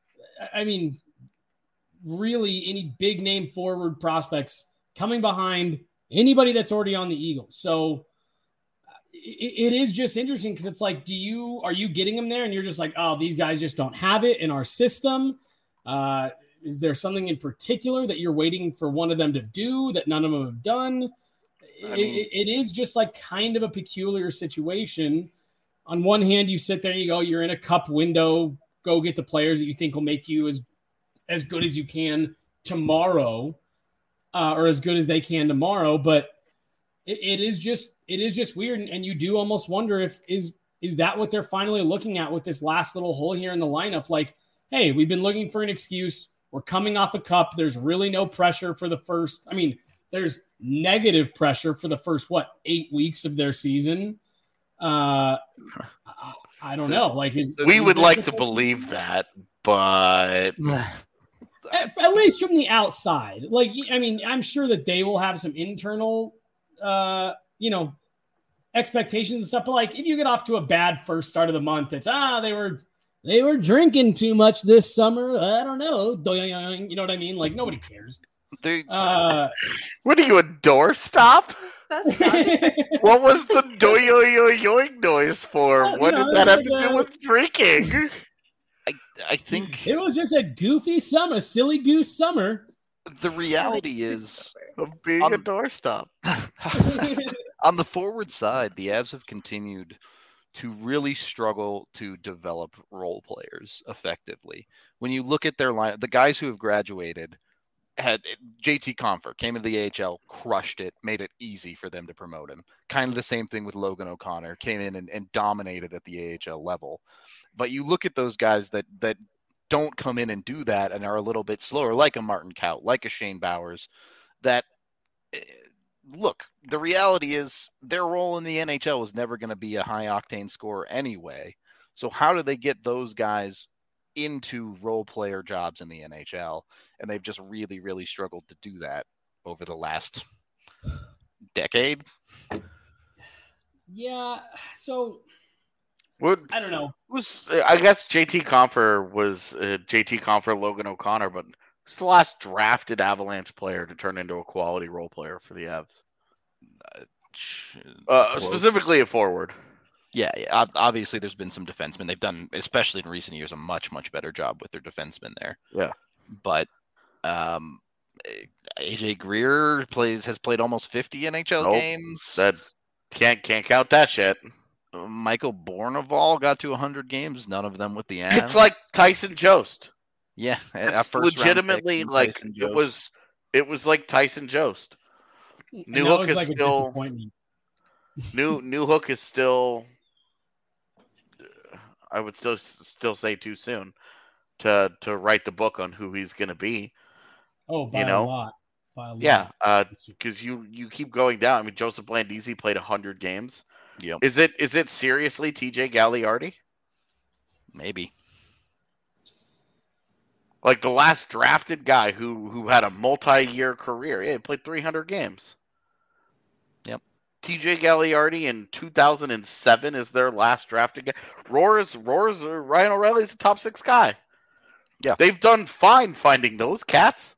really any big name forward prospects coming behind anybody that's already on the Eagles. So it is just interesting because it's like, are you getting them there and you're just like, oh, these guys just don't have it in our system? Is there something in particular that you're waiting for one of them to do that none of them have done? It is just like kind of a peculiar situation. On one hand, you sit there and you go, you're in a cup window, go get the players that you think will make you as good as you can tomorrow, or as good as they can tomorrow. But it is just weird. And you do almost wonder is that what they're finally looking at with this last little hole here in the lineup? Like, hey, we've been looking for an excuse. We're coming off a cup. There's really no pressure for the first. There's negative pressure for the first, 8 weeks of their season. I don't know. Like, we would like to believe that, but at least from the outside, like, I'm sure that they will have some internal, expectations and stuff. But like, if you get off to a bad first start of the month, it's they were drinking too much this summer. I don't know. You know what I mean? Like, nobody cares. What are you, a doorstop? That's not What was the doing noise for? Oh, What you know, did that have it's to like do with drinking? I think It was just a goofy summer, silly goose summer. the reality is Of being a doorstop. on the forward side, the Avs have continued to really struggle to develop role players effectively. When you look at their line, the guys who have graduated had JT Compher came into the AHL, crushed it, made it easy for them to promote him. Kind of the same thing with Logan O'Connor, came in and dominated at the AHL level. But you look at those guys that don't come in and do that and are a little bit slower, like a Martin Kaut, like a Shane Bowers, that look, the reality is their role in the NHL was never going to be a high octane scorer anyway. So how do they get those guys into role player jobs in the NHL? And they've just really, really struggled to do that over the last decade. Yeah. So What I don't know. was I guess JT Compher was JT Compher, Logan O'Connor, but who's the last drafted Avalanche player to turn into a quality role player for the Avs? Specifically a forward. Yeah. Obviously, there's been some defensemen. They've done, especially in recent years, a much, much better job with their defensemen there. Yeah. But AJ Greer has played almost 50 NHL games. That can't count that shit. Michael Bournival got to 100 games, none of them with the Avs. It's like Tyson Jost. Yeah, it's legitimately like it was like Tyson Jost. Newhook is still Newhook is still. I would still say too soon to write the book on who he's going to be. Oh, by a lot. Yeah, because you keep going down. I mean, Joseph Blandisi played 100 games. Yep. Is it seriously TJ Galliardi? Maybe. Like the last drafted guy who had a multi-year career. Yeah, he played 300 games. Yep. TJ Galliardi in 2007 is their last drafted guy. Roars, Ryan O'Reilly's a top 6 guy. Yeah. They've done fine finding those cats.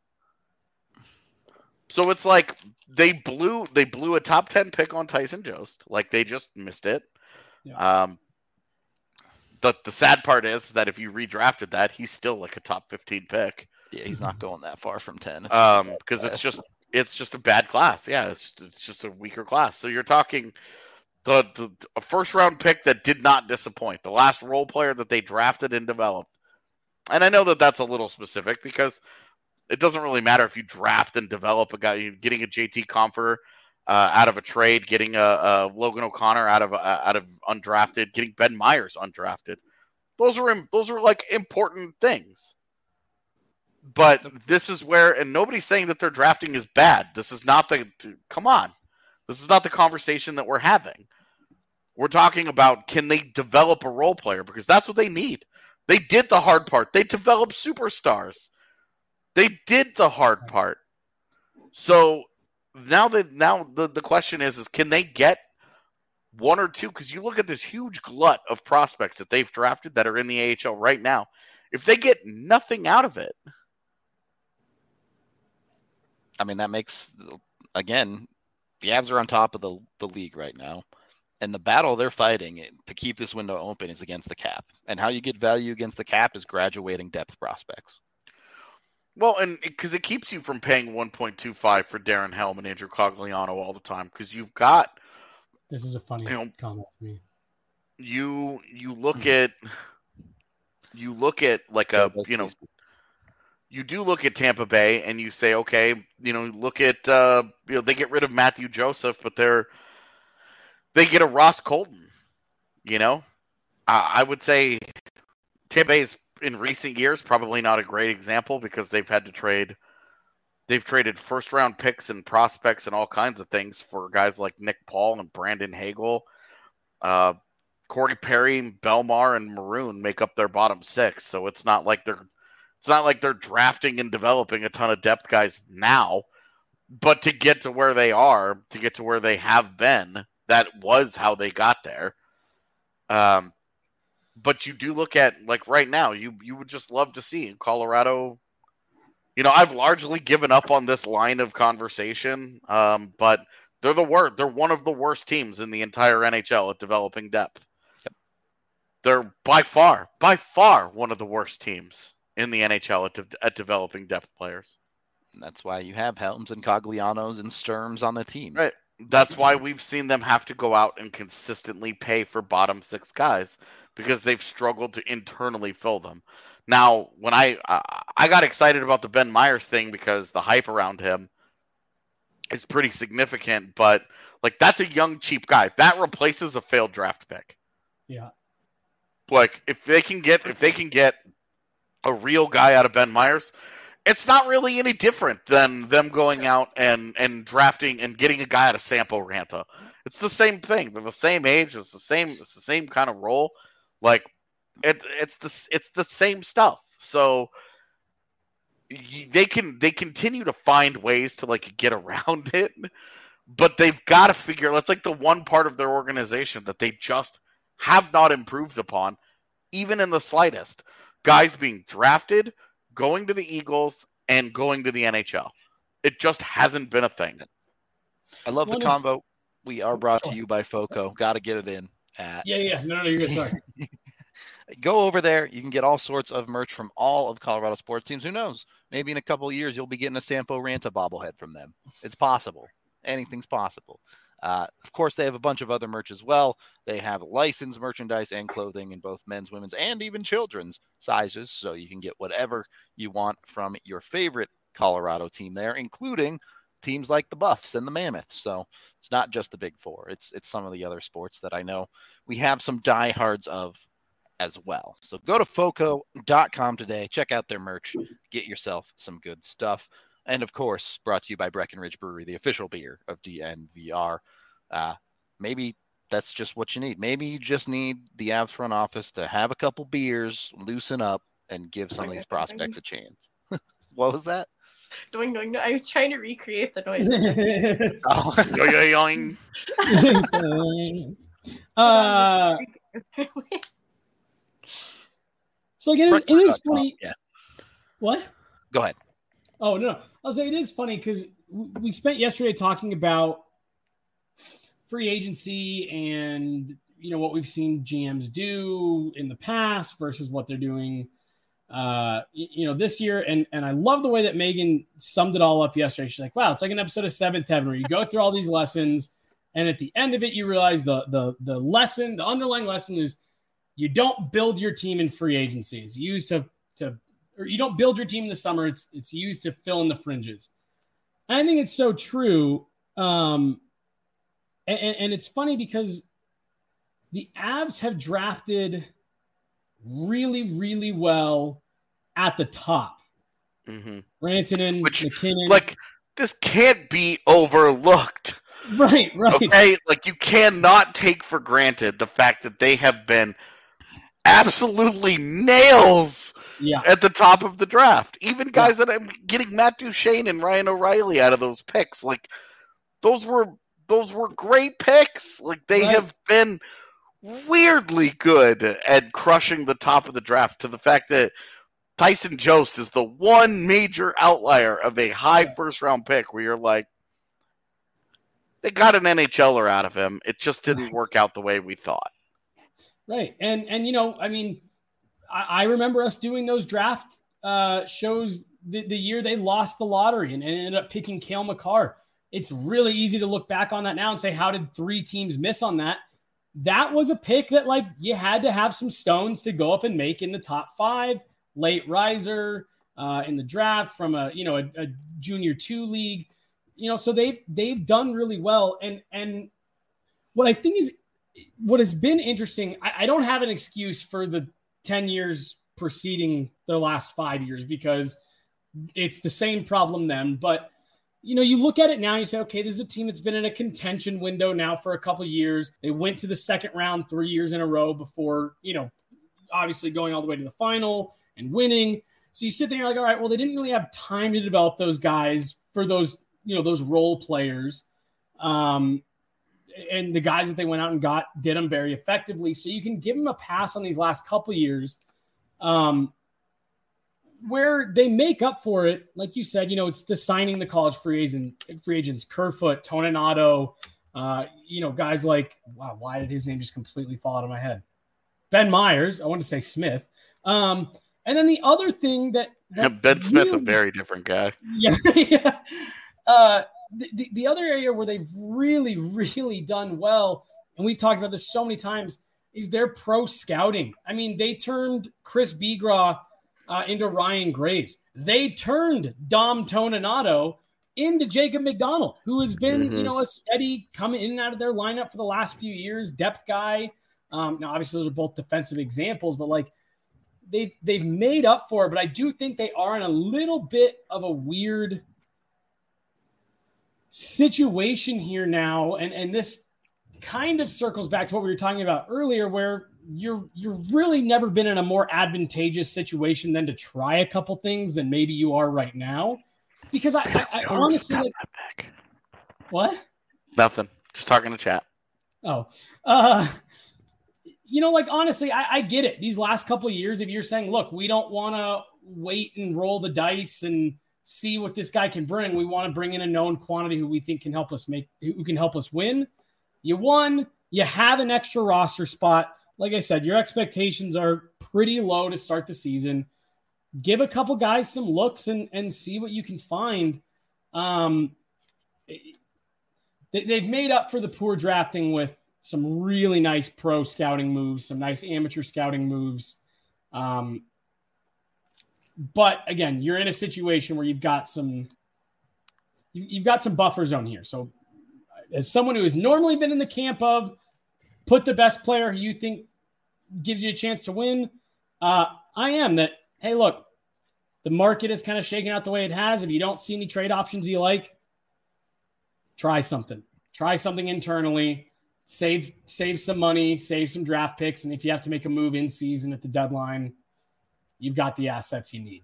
So it's like they blew a top 10 pick on Tyson Jost. Like they just missed it. Yeah. The sad part is that if you redrafted that, he's still like a top 15 pick. Yeah, he's not going that far from 10. Because it's just a bad class. Yeah, it's just a weaker class. So you're talking a first round pick that did not disappoint. The last role player that they drafted and developed. And I know that that's a little specific because it doesn't really matter if you draft and develop a guy. You're getting a JT Compher out of a trade, getting a Logan O'Connor out of undrafted, getting Ben Myers undrafted. Those are like important things. But this is where, and nobody's saying that their drafting is bad. This is not come on. This is not the conversation that we're having. We're talking about, can they develop a role player? Because that's what they need. They did the hard part. They developed superstars. They did the hard part. So now the question is can they get one or two? Because you look at this huge glut of prospects that they've drafted that are in the AHL right now. If they get nothing out of it, I mean, that makes, again, the Avs are on top of the league right now. And the battle they're fighting to keep this window open is against the cap. And how you get value against the cap is graduating depth prospects. Well, and because it keeps you from paying 1.25 for Darren Helm and Andrew Cogliano all the time, because you've got. This is a funny comment for me. You look at like you do look at Tampa Bay and you say, okay, look at they get rid of Matthew Joseph, but they get a Ross Colton. I would say Tampa Bay is in recent years probably not a great example because they've had to trade. They've traded first round picks and prospects and all kinds of things for guys like Nick Paul and Brandon Hagel. Corey Perry, Belmar, and Maroon make up their bottom 6. So it's not like they're drafting and developing a ton of depth guys now. But to get to where they are, to get to where they have been, that was how they got there. But you do look at, like right now, you would just love to see in Colorado. I've largely given up on this line of conversation, but They're the worst. They're one of the worst teams in the entire NHL at developing depth. Yep. They're by far one of the worst teams in the NHL at developing depth players. And that's why you have Helms and Coglianos and Sturms on the team. Right. That's why we've seen them have to go out and consistently pay for bottom six guys because they've struggled to internally fill them. Now, when I got excited about the Ben Myers thing because the hype around him is pretty significant, but like that's a young, cheap guy. That replaces a failed draft pick. Yeah. Like if they can get a real guy out of Ben Myers, it's not really any different than them going out and drafting and getting a guy out of Sampo Ranta. It's the same thing. They're the same age. It's the same kind of role. Like it's the same stuff. So they continue to find ways to like get around it, but they've got to figure. That's like the one part of their organization that they just have not improved upon, even in the slightest. Guys being drafted, going to the Eagles, and going to the NHL. It just hasn't been a thing. I love the combo. We are brought to you by FOCO. Got to get it in. Yeah. No, you're good. Sorry. Go over there. You can get all sorts of merch from all of Colorado sports teams. Who knows? Maybe in a couple of years, you'll be getting a Sampo Ranta bobblehead from them. It's possible. Anything's possible. Of course, they have a bunch of other merch as well. They have licensed merchandise and clothing in both men's, women's, and even children's sizes. So you can get whatever you want from your favorite Colorado team there, including teams like the Buffs and the Mammoths. So it's not just the Big Four. It's some of the other sports that I know we have some diehards of as well. So go to foco.com today. Check out their merch. Get yourself some good stuff. And, of course, brought to you by Breckenridge Brewery, the official beer of DNVR. Maybe that's just what you need. Maybe you just need the Avs front office to have a couple beers, loosen up, and give some of these prospects a chance. What was that? Doing. I was trying to recreate the noise. So again, it is funny. Yeah. What? Go ahead. Oh, no. I'll say it is funny because we spent yesterday talking about free agency and, what we've seen GMs do in the past versus what they're doing, this year. And I love the way that Megan summed it all up yesterday. She's like, wow, it's like an episode of Seventh Heaven where you go through all these lessons. And at the end of it, you realize the lesson, the underlying lesson is you don't build your team in free agency. It's used or you don't build your team in the summer. It's used to fill in the fringes. And I think it's so true. And it's funny because the Avs have drafted really, really well at the top. Mm-hmm. Rantanen, McKinnon. Like, this can't be overlooked. Right. Okay? Like, you cannot take for granted the fact that they have been absolutely nails at the top of the draft. Even guys that I'm getting Matt Duchene and Ryan O'Reilly out of those picks. Like, those were great picks. Like, they have been weirdly good at crushing the top of the draft to the fact that Tyson Jost is the one major outlier of a high first-round pick where you're like, they got an NHLer out of him. It just didn't work out the way we thought. Right. And I remember us doing those draft shows the year they lost the lottery and ended up picking Cale Makar. It's really easy to look back on that now and say, how did 3 teams miss on that? That was a pick that, like, you had to have some stones to go up and make in the top 5, late riser in the draft from a junior 2 league, so they've done really well. And what I think is what has been interesting, I don't have an excuse for the 10 years preceding their last 5 years because it's the same problem then. But, you look at it now and you say, okay, this is a team that's been in a contention window now for a couple of years. They went to the second round 3 years in a row before, obviously going all the way to the final and winning. So you sit there and you're like, all right, well, they didn't really have time to develop those guys for those, those role players. And the guys that they went out and got did them very effectively. So you can give them a pass on these last couple of years. where they make up for it, like you said, it's the signing the college free agents, Kerfoot, Toninato, guys like, wow, why did his name just completely fall out of my head? Ben Myers. I wanted to say Smith. And then the other thing that Ben Smith, a very different guy. Yeah. Yeah. The other area where they've really, really done well, and we've talked about this so many times, is their pro scouting. I mean, they turned Chris Begraw into Ryan Graves. They turned Dom Toninato into Jacob McDonald, who has been, a steady coming in and out of their lineup for the last few years, depth guy. Now, obviously, those are both defensive examples, but like they've made up for it. But I do think they are in a little bit of a weird situation here now, and this kind of circles back to what we were talking about earlier, where you're really never been in a more advantageous situation than to try a couple things than maybe you are right now. Because I honestly like, what? Nothing. Just talking to chat. Oh, honestly, I get it. These last couple of years, if you're saying, look, we don't want to wait and roll the dice and see what this guy can bring. We want to bring in a known quantity who we think can help us win. You won. You have an extra roster spot. Like I said, your expectations are pretty low to start the season. Give a couple guys some looks and see what you can find. They've made up for the poor drafting with some really nice pro scouting moves, some nice amateur scouting moves. But again, you're in a situation where you've got some buffer zone here. So as someone who has normally been in the camp of put the best player who you think gives you a chance to win, I am that, hey, look, the market is kind of shaking out the way it has. If you don't see any trade options you like, try something. Try something internally. Save some money, save some draft picks, and if you have to make a move in season at the deadline, you've got the assets you need.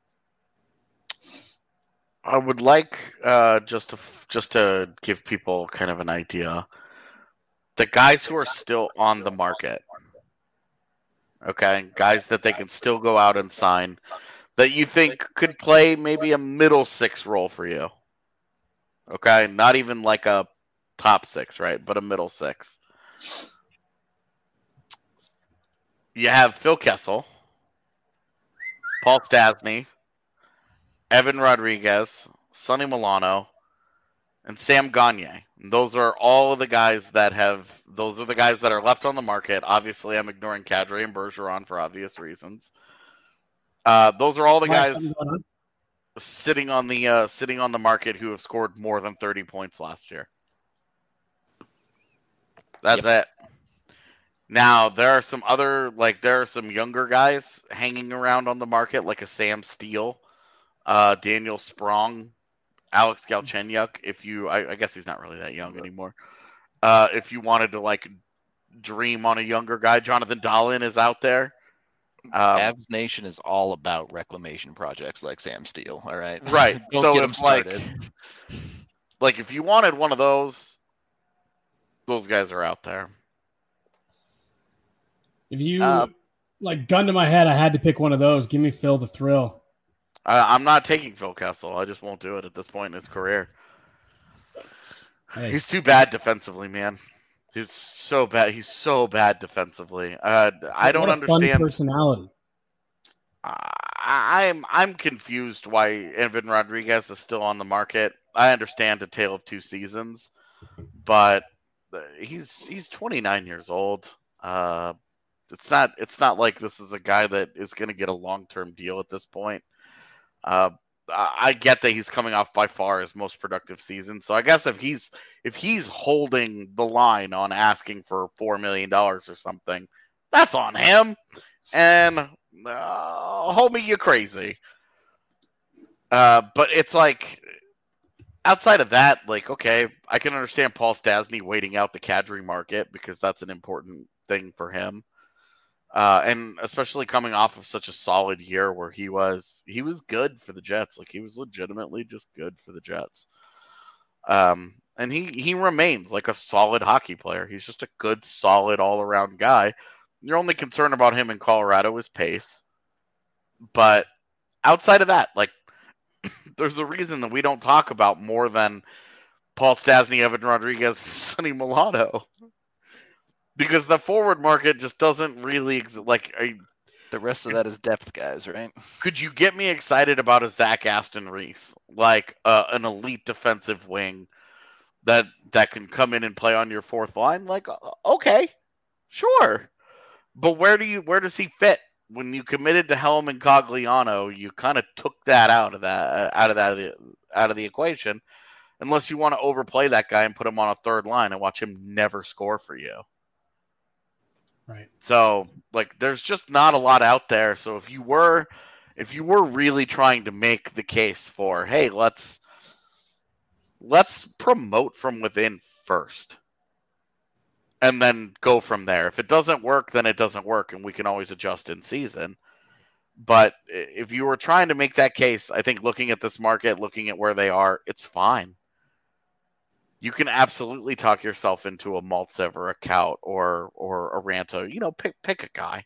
I would like just to give people kind of an idea. The guys who are still on the market, okay, guys that they can still go out and sign, that you think could play maybe a middle six role for you. Okay, not even like a top six, right? But a middle six. You have Phil Kessel, Paul Stastny, Evan Rodriguez, Sonny Milano, and Sam Gagne. Those are all of the guys that those are the guys that are left on the market. Obviously, I'm ignoring Kadri and Bergeron for obvious reasons. Those are all the guys sitting on the market who have scored more than 30 points last year. That's it. Now, there are some younger guys hanging around on the market, like a Sam Steele, Daniel Sprong, Alex Galchenyuk. I guess he's not really that young anymore. If you wanted to dream on a younger guy, Jonathan Dahlin is out there. Avs Nation is all about reclamation projects like Sam Steele. All right, right. So get him started. If you wanted one of those guys are out there. If you gun to my head, I had to pick one of those. Give me Phil the Thrill. I'm not taking Phil Kessel. I just won't do it at this point in his career. Hey. He's too bad defensively, man. He's so bad. He's so bad defensively. I don't understand. Fun personality. I'm confused why Evan Rodriguez is still on the market. I understand a tale of two seasons, but he's 29 years old. It's not like this is a guy that is going to get a long-term deal at this point. I get that he's coming off by far his most productive season. So I guess if he's holding the line on asking for $4 million or something, that's on him. And homie, you crazy. But it's outside of that, okay, I can understand Paul Stastny waiting out the Kadri market because that's an important thing for him. And especially coming off of such a solid year where he was good for the Jets. He was legitimately just good for the Jets. And he remains a solid hockey player. He's just a good, solid, all-around guy. Your only concern about him in Colorado is pace. But outside of that, like, there's a reason that we don't talk about more than Paul Stastny, Evan Rodriguez, and Sonny Milano. Because the forward market just doesn't really the rest of that is depth guys, right? Could you get me excited about a Zach Aston Reese, like an elite defensive wing that can come in and play on your fourth line? Like, okay, sure, but where does he fit? When you committed to Helm and Cogliano, you kind of took that out of the equation, unless you want to overplay that guy and put him on a third line and watch him never score for you. Right. So, like, there's just not a lot out there. So if you were really trying to make the case for, hey, let's promote from within first, and then go from there. If it doesn't work, then it doesn't work, and we can always adjust in season. But if you were trying to make that case, I think looking at this market, looking at where they are, it's fine. You can absolutely talk yourself into a Maltsev or a Kaut or a Ranto. You know, pick a guy.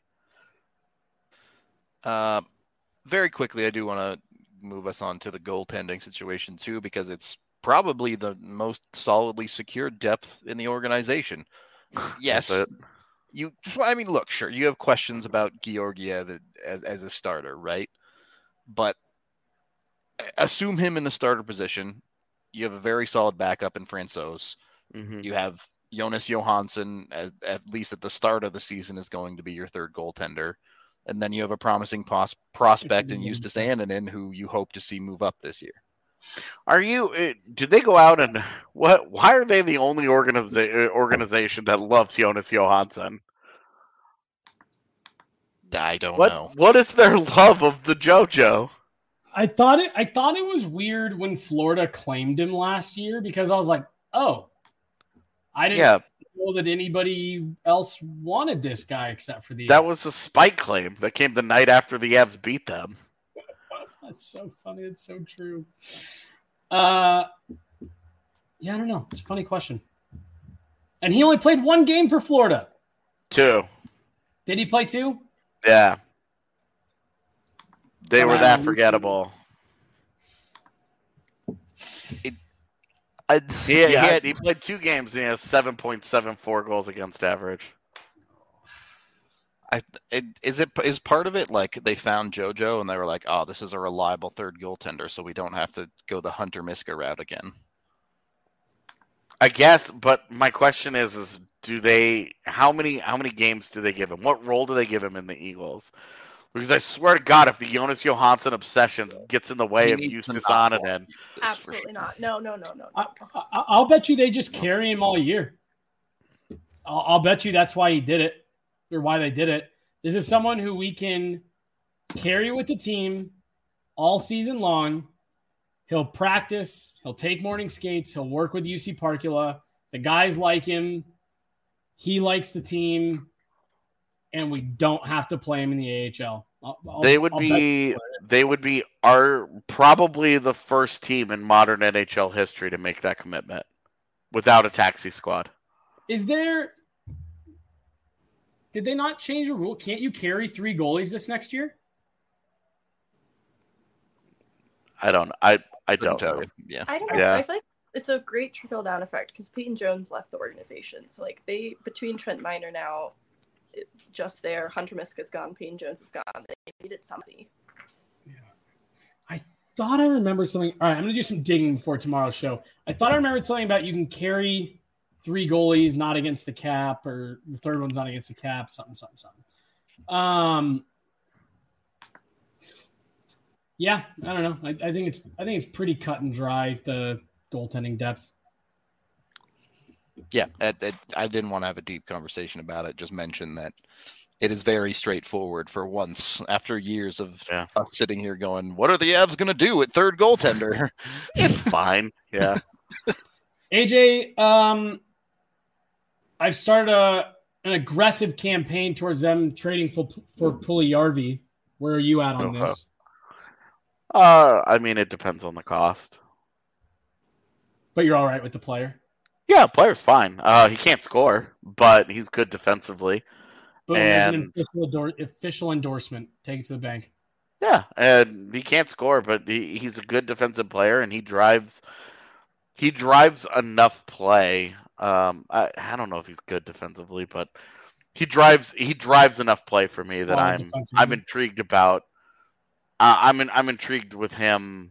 Very quickly, I do want to move us on to the goaltending situation too, because it's probably the most solidly secured depth in the organization. Yes, look, sure, you have questions about Georgiev as a starter, right? But assume him in the starter position. You have a very solid backup in Francouz. Mm-hmm. You have Jonas Johansson, at least at the start of the season, is going to be your third goaltender. And then you have a promising prospect in Justus Annunen, who you hope to see move up this year. Did they go out and why are they the only organization that loves Jonas Johansson? I don't know. What is their love of the JoJo? I thought it was weird when Florida claimed him last year, because I was like, oh, I didn't know that anybody else wanted this guy except for the. That was a spike claim that came the night after the Avs beat them. That's so funny. It's so true. Yeah, I don't know. It's a funny question. And he only played one game for Florida. 2. Did he play 2? Yeah. They were that forgettable. He played 2 games and he has 7.74 goals against average. Is part of it like they found JoJo and they were like, oh, this is a reliable third goaltender, so we don't have to go the Hunter Miska route again? I guess, but my question is how many games do they give him? What role do they give him in the Eagles? Because I swear to God, if the Jonas Johansson obsession gets in the way of Justus Annunen, absolutely not. No. I'll bet you they just carry him all year. I'll bet you that's why he did it, or why they did it. This is someone who we can carry with the team all season long. He'll practice. He'll take morning skates. He'll work with UC Parkula. The guys like him. He likes the team. And we don't have to play him in the AHL. They would be probably the first team in modern NHL history to make that commitment without a taxi squad. Did they not change a rule? Can't you carry 3 goalies this next year? I don't know. Yeah. I don't know. Yeah. I feel like it's a great trickle down effect because Peyton Jones left the organization. So like between Trent Miner now, just there, Hunter Miska's gone, Peyton Jones is gone. They needed somebody. Yeah. I thought I remembered something. All right, I'm going to do some digging before tomorrow's show. I thought I remembered something about you can carry 3 goalies not against the cap, or the third one's not against the cap, something. Yeah, I don't know. I think it's pretty cut and dry, the goaltending depth. Yeah, I didn't want to have a deep conversation about it. Just mention that it is very straightforward for once, after years of us sitting here going, what are the Avs going to do at third goaltender? It's fine. Yeah. AJ, I've started an aggressive campaign towards them trading for Puljujarvi. Where are you at on this? I mean, it depends on the cost. But you're all right with the player? Yeah, player's fine. He can't score, but he's good defensively. Boom, and an official endorsement. Take it to the bank. Yeah, and he can't score, but he's a good defensive player, and he drives enough play. I don't know if he's good defensively, but he drives enough play for me that Solid I'm defensively. intrigued about. I'm intrigued with him,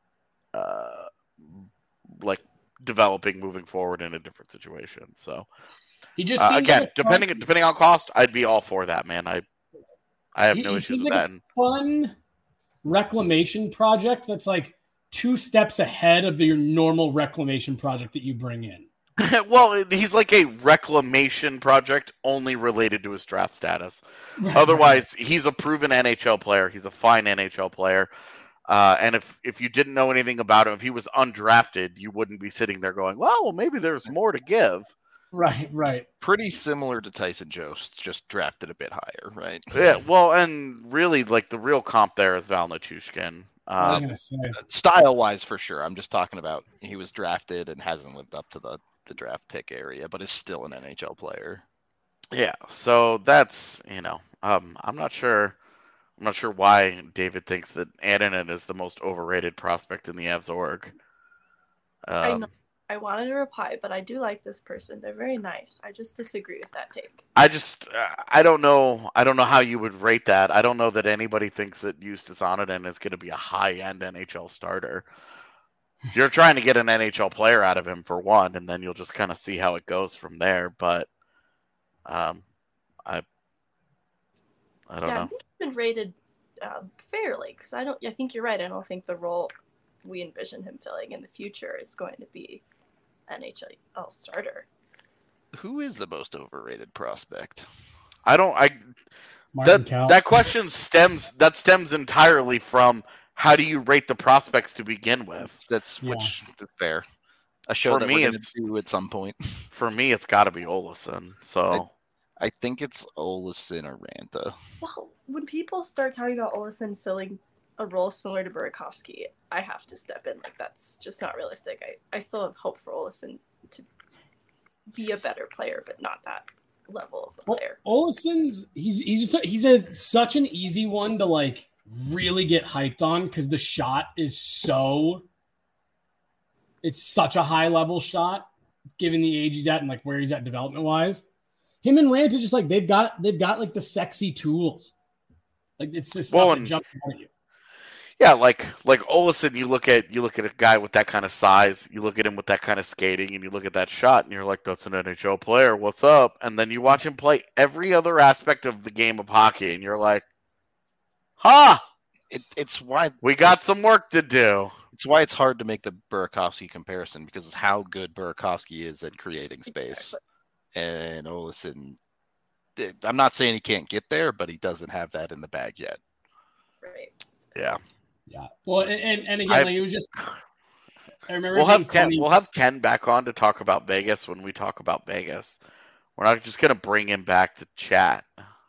like developing moving forward in a different situation. So He just seems again, like a fun, depending on cost, I'd be all for that, man. I have no he issues seems with like that. a fun reclamation project that's like 2 steps ahead of your normal reclamation project that you bring in. Well, he's like a reclamation project only related to his draft status. Right, Otherwise, he's a proven NHL player. He's a fine NHL player. And if you didn't know anything about him, if he was undrafted, you wouldn't be sitting there going, well, maybe there's more to give. right. Pretty similar to Tyson Jost, just drafted a bit higher, right? Yeah, well, and really, like the real comp there is Val Nichushkin. I was gonna say. Style-wise, for sure. I'm just talking about he was drafted and hasn't lived up to the draft pick area, but is still an NHL player. Yeah, so that's I'm not sure why David thinks that Annunen is the most overrated prospect in the Avs org. I know. I wanted to reply, but I do like this person. They're very nice. I just disagree with that take. I don't know how you would rate that. I don't know that anybody thinks that Justus Annunen is going to be a high-end NHL starter. You're trying to get an NHL player out of him for one, and then you'll just kind of see how it goes from there. But I don't know. I think he's been rated fairly because I think you're right. I don't think the role we envision him filling in the future is going to be NHL starter. Who is the most overrated prospect? That question stems entirely from how do you rate the prospects to begin with? That's fair. A show for that me, we're going to do at some point. For me, it's got to be Olofsson. So I think it's Olofsson or Ranta. Well, when people start talking about Olofsson filling a role similar to Burakovsky, I have to step in. Like, that's just not realistic. I still have hope for Olofsson to be a better player, but not that level of a player. Olofsson's he's such an easy one to like really get hyped on because the shot is it's such a high level shot given the age he's at and like where he's at development wise. Him and Ranta just like they've got like the sexy tools. Like it's this stuff that jumps out at you. Yeah, like Olofsson, you look at a guy with that kind of size, you look at him with that kind of skating, and you look at that shot, and you're like, that's an NHL player. What's up? And then you watch him play every other aspect of the game of hockey, and you're like, It's why we got some work to do. It's why it's hard to make the Burakovsky comparison because of how good Burakovsky is at creating space. And Olofsson, I'm not saying he can't get there, but he doesn't have that in the bag yet. Right. Yeah. Yeah. Well, and again, it was just. I remember we'll have Ken back on to talk about Vegas when we talk about Vegas. We're not just gonna bring him back to chat.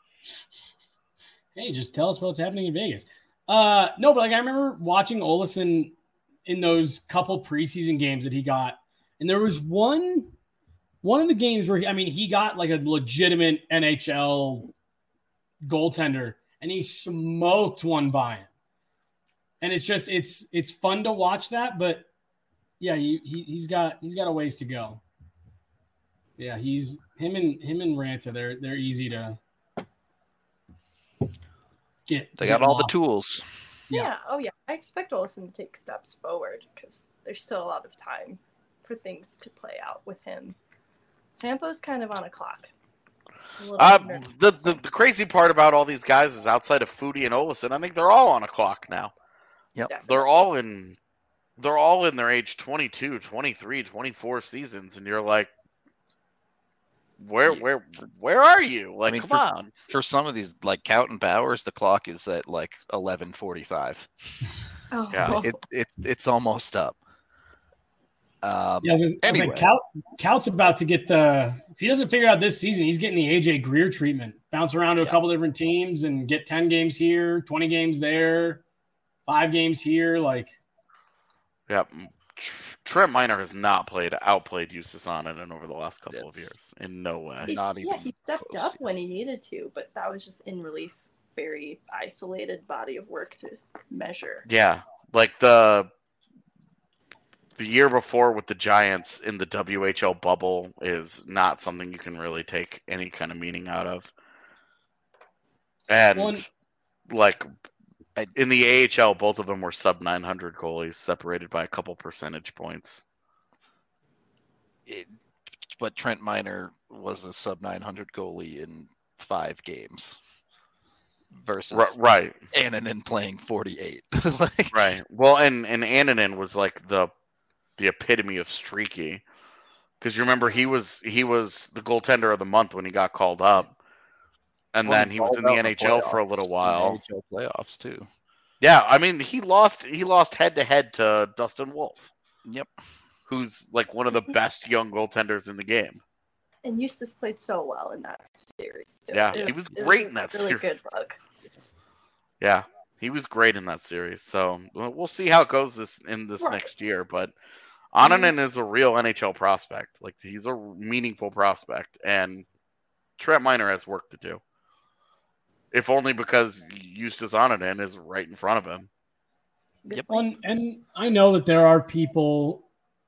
Hey, just tell us what's happening in Vegas. No, but like I remember watching Olofsson in those couple preseason games that he got, and there was one of the games where he got like a legitimate NHL goaltender, and he smoked one by him. And it's just it's fun to watch that, but yeah, he's got a ways to go. Yeah, him and Ranta, they're easy to get. They got all the tools. Yeah. Oh yeah. I expect Olofsson to take steps forward because there's still a lot of time for things to play out with him. Sampo's kind of on a clock. The crazy part about all these guys is outside of Foudy and Olofsson, I think they're all on a clock now. Yep. Definitely. They're all in their age 22, 23, 24 seasons, and you're like, where are you? Like, come on. For some of these, like Count and Bowers, the clock is at like 11:45. Oh. Yeah. It's almost up. Anyway, Cout's about to get if he doesn't figure out this season, he's getting the AJ Greer treatment. Bounce around to a couple different teams and get 10 games here, 20 games there, 5 games here. Like, yeah, Trent Miner has not outplayed Justus Annunen over the last couple of years. In no way. He stepped up when he needed to, but that was just in relief very isolated body of work to measure. Yeah, like the year before with the Giants in the WHL bubble is not something you can really take any kind of meaning out of. And like in the AHL, both of them were sub 900 goalies, separated by a couple percentage points. But Trent Miner was a sub 900 goalie in 5 games versus right Annunen playing 48. Right. Well, and Annunen was like the epitome of streaky, because you remember he was the goaltender of the month when he got called up, and then he was in the NHL for a little while. NHL playoffs too. Yeah, I mean he lost head to head to Dustin Wolf. Yep. Who's like one of the best young goaltenders in the game. And Eustace played so well in that series. Yeah, he was great in that really series. Good luck. Yeah, he was great in that series. So we'll see how it goes this Right. next year. But Annunen is a real NHL prospect. Like, he's a meaningful prospect, and Trent Miner has work to do. If only because Eustace Annunen is right in front of him. Yep. And I know that there are people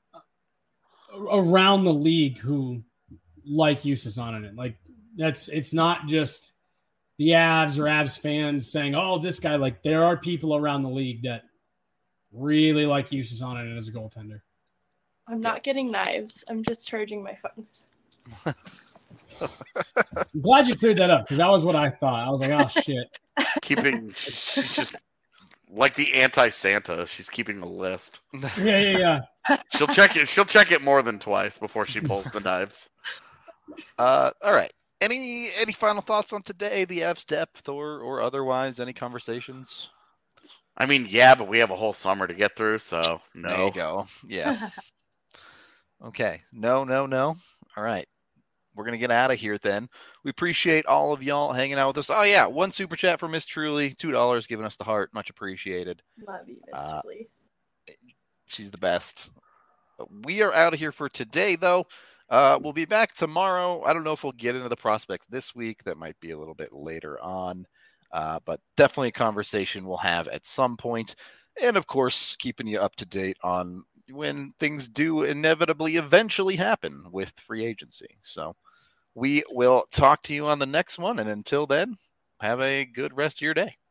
around the league who like Eustace Annunen. Like, it's not just the Avs or Avs fans saying, "Oh, this guy." Like, there are people around the league that really like Eustace Annunen as a goaltender. I'm not getting knives. I'm just charging my phone. I'm glad you cleared that up, because that was what I thought. I was like, "Oh shit." She's just like the anti-Santa. She's keeping a list. Yeah. She'll check it more than twice before she pulls the knives. All right. Any final thoughts on today, the Avs depth or otherwise? Any conversations? I mean, yeah, but we have a whole summer to get through, so no. There you go. Yeah. Okay. No. All right. We're going to get out of here then. We appreciate all of y'all hanging out with us. Oh, yeah. 1 super chat from Miss Truly. $2 giving us the heart. Much appreciated. Love you, Miss Truly. She's the best. We are out of here for today, though. We'll be back tomorrow. I don't know if we'll get into the prospects this week. That might be a little bit later on. But definitely a conversation we'll have at some point. And, of course, keeping you up to date on when things do inevitably eventually happen with free agency. So we will talk to you on the next one. And until then, have a good rest of your day.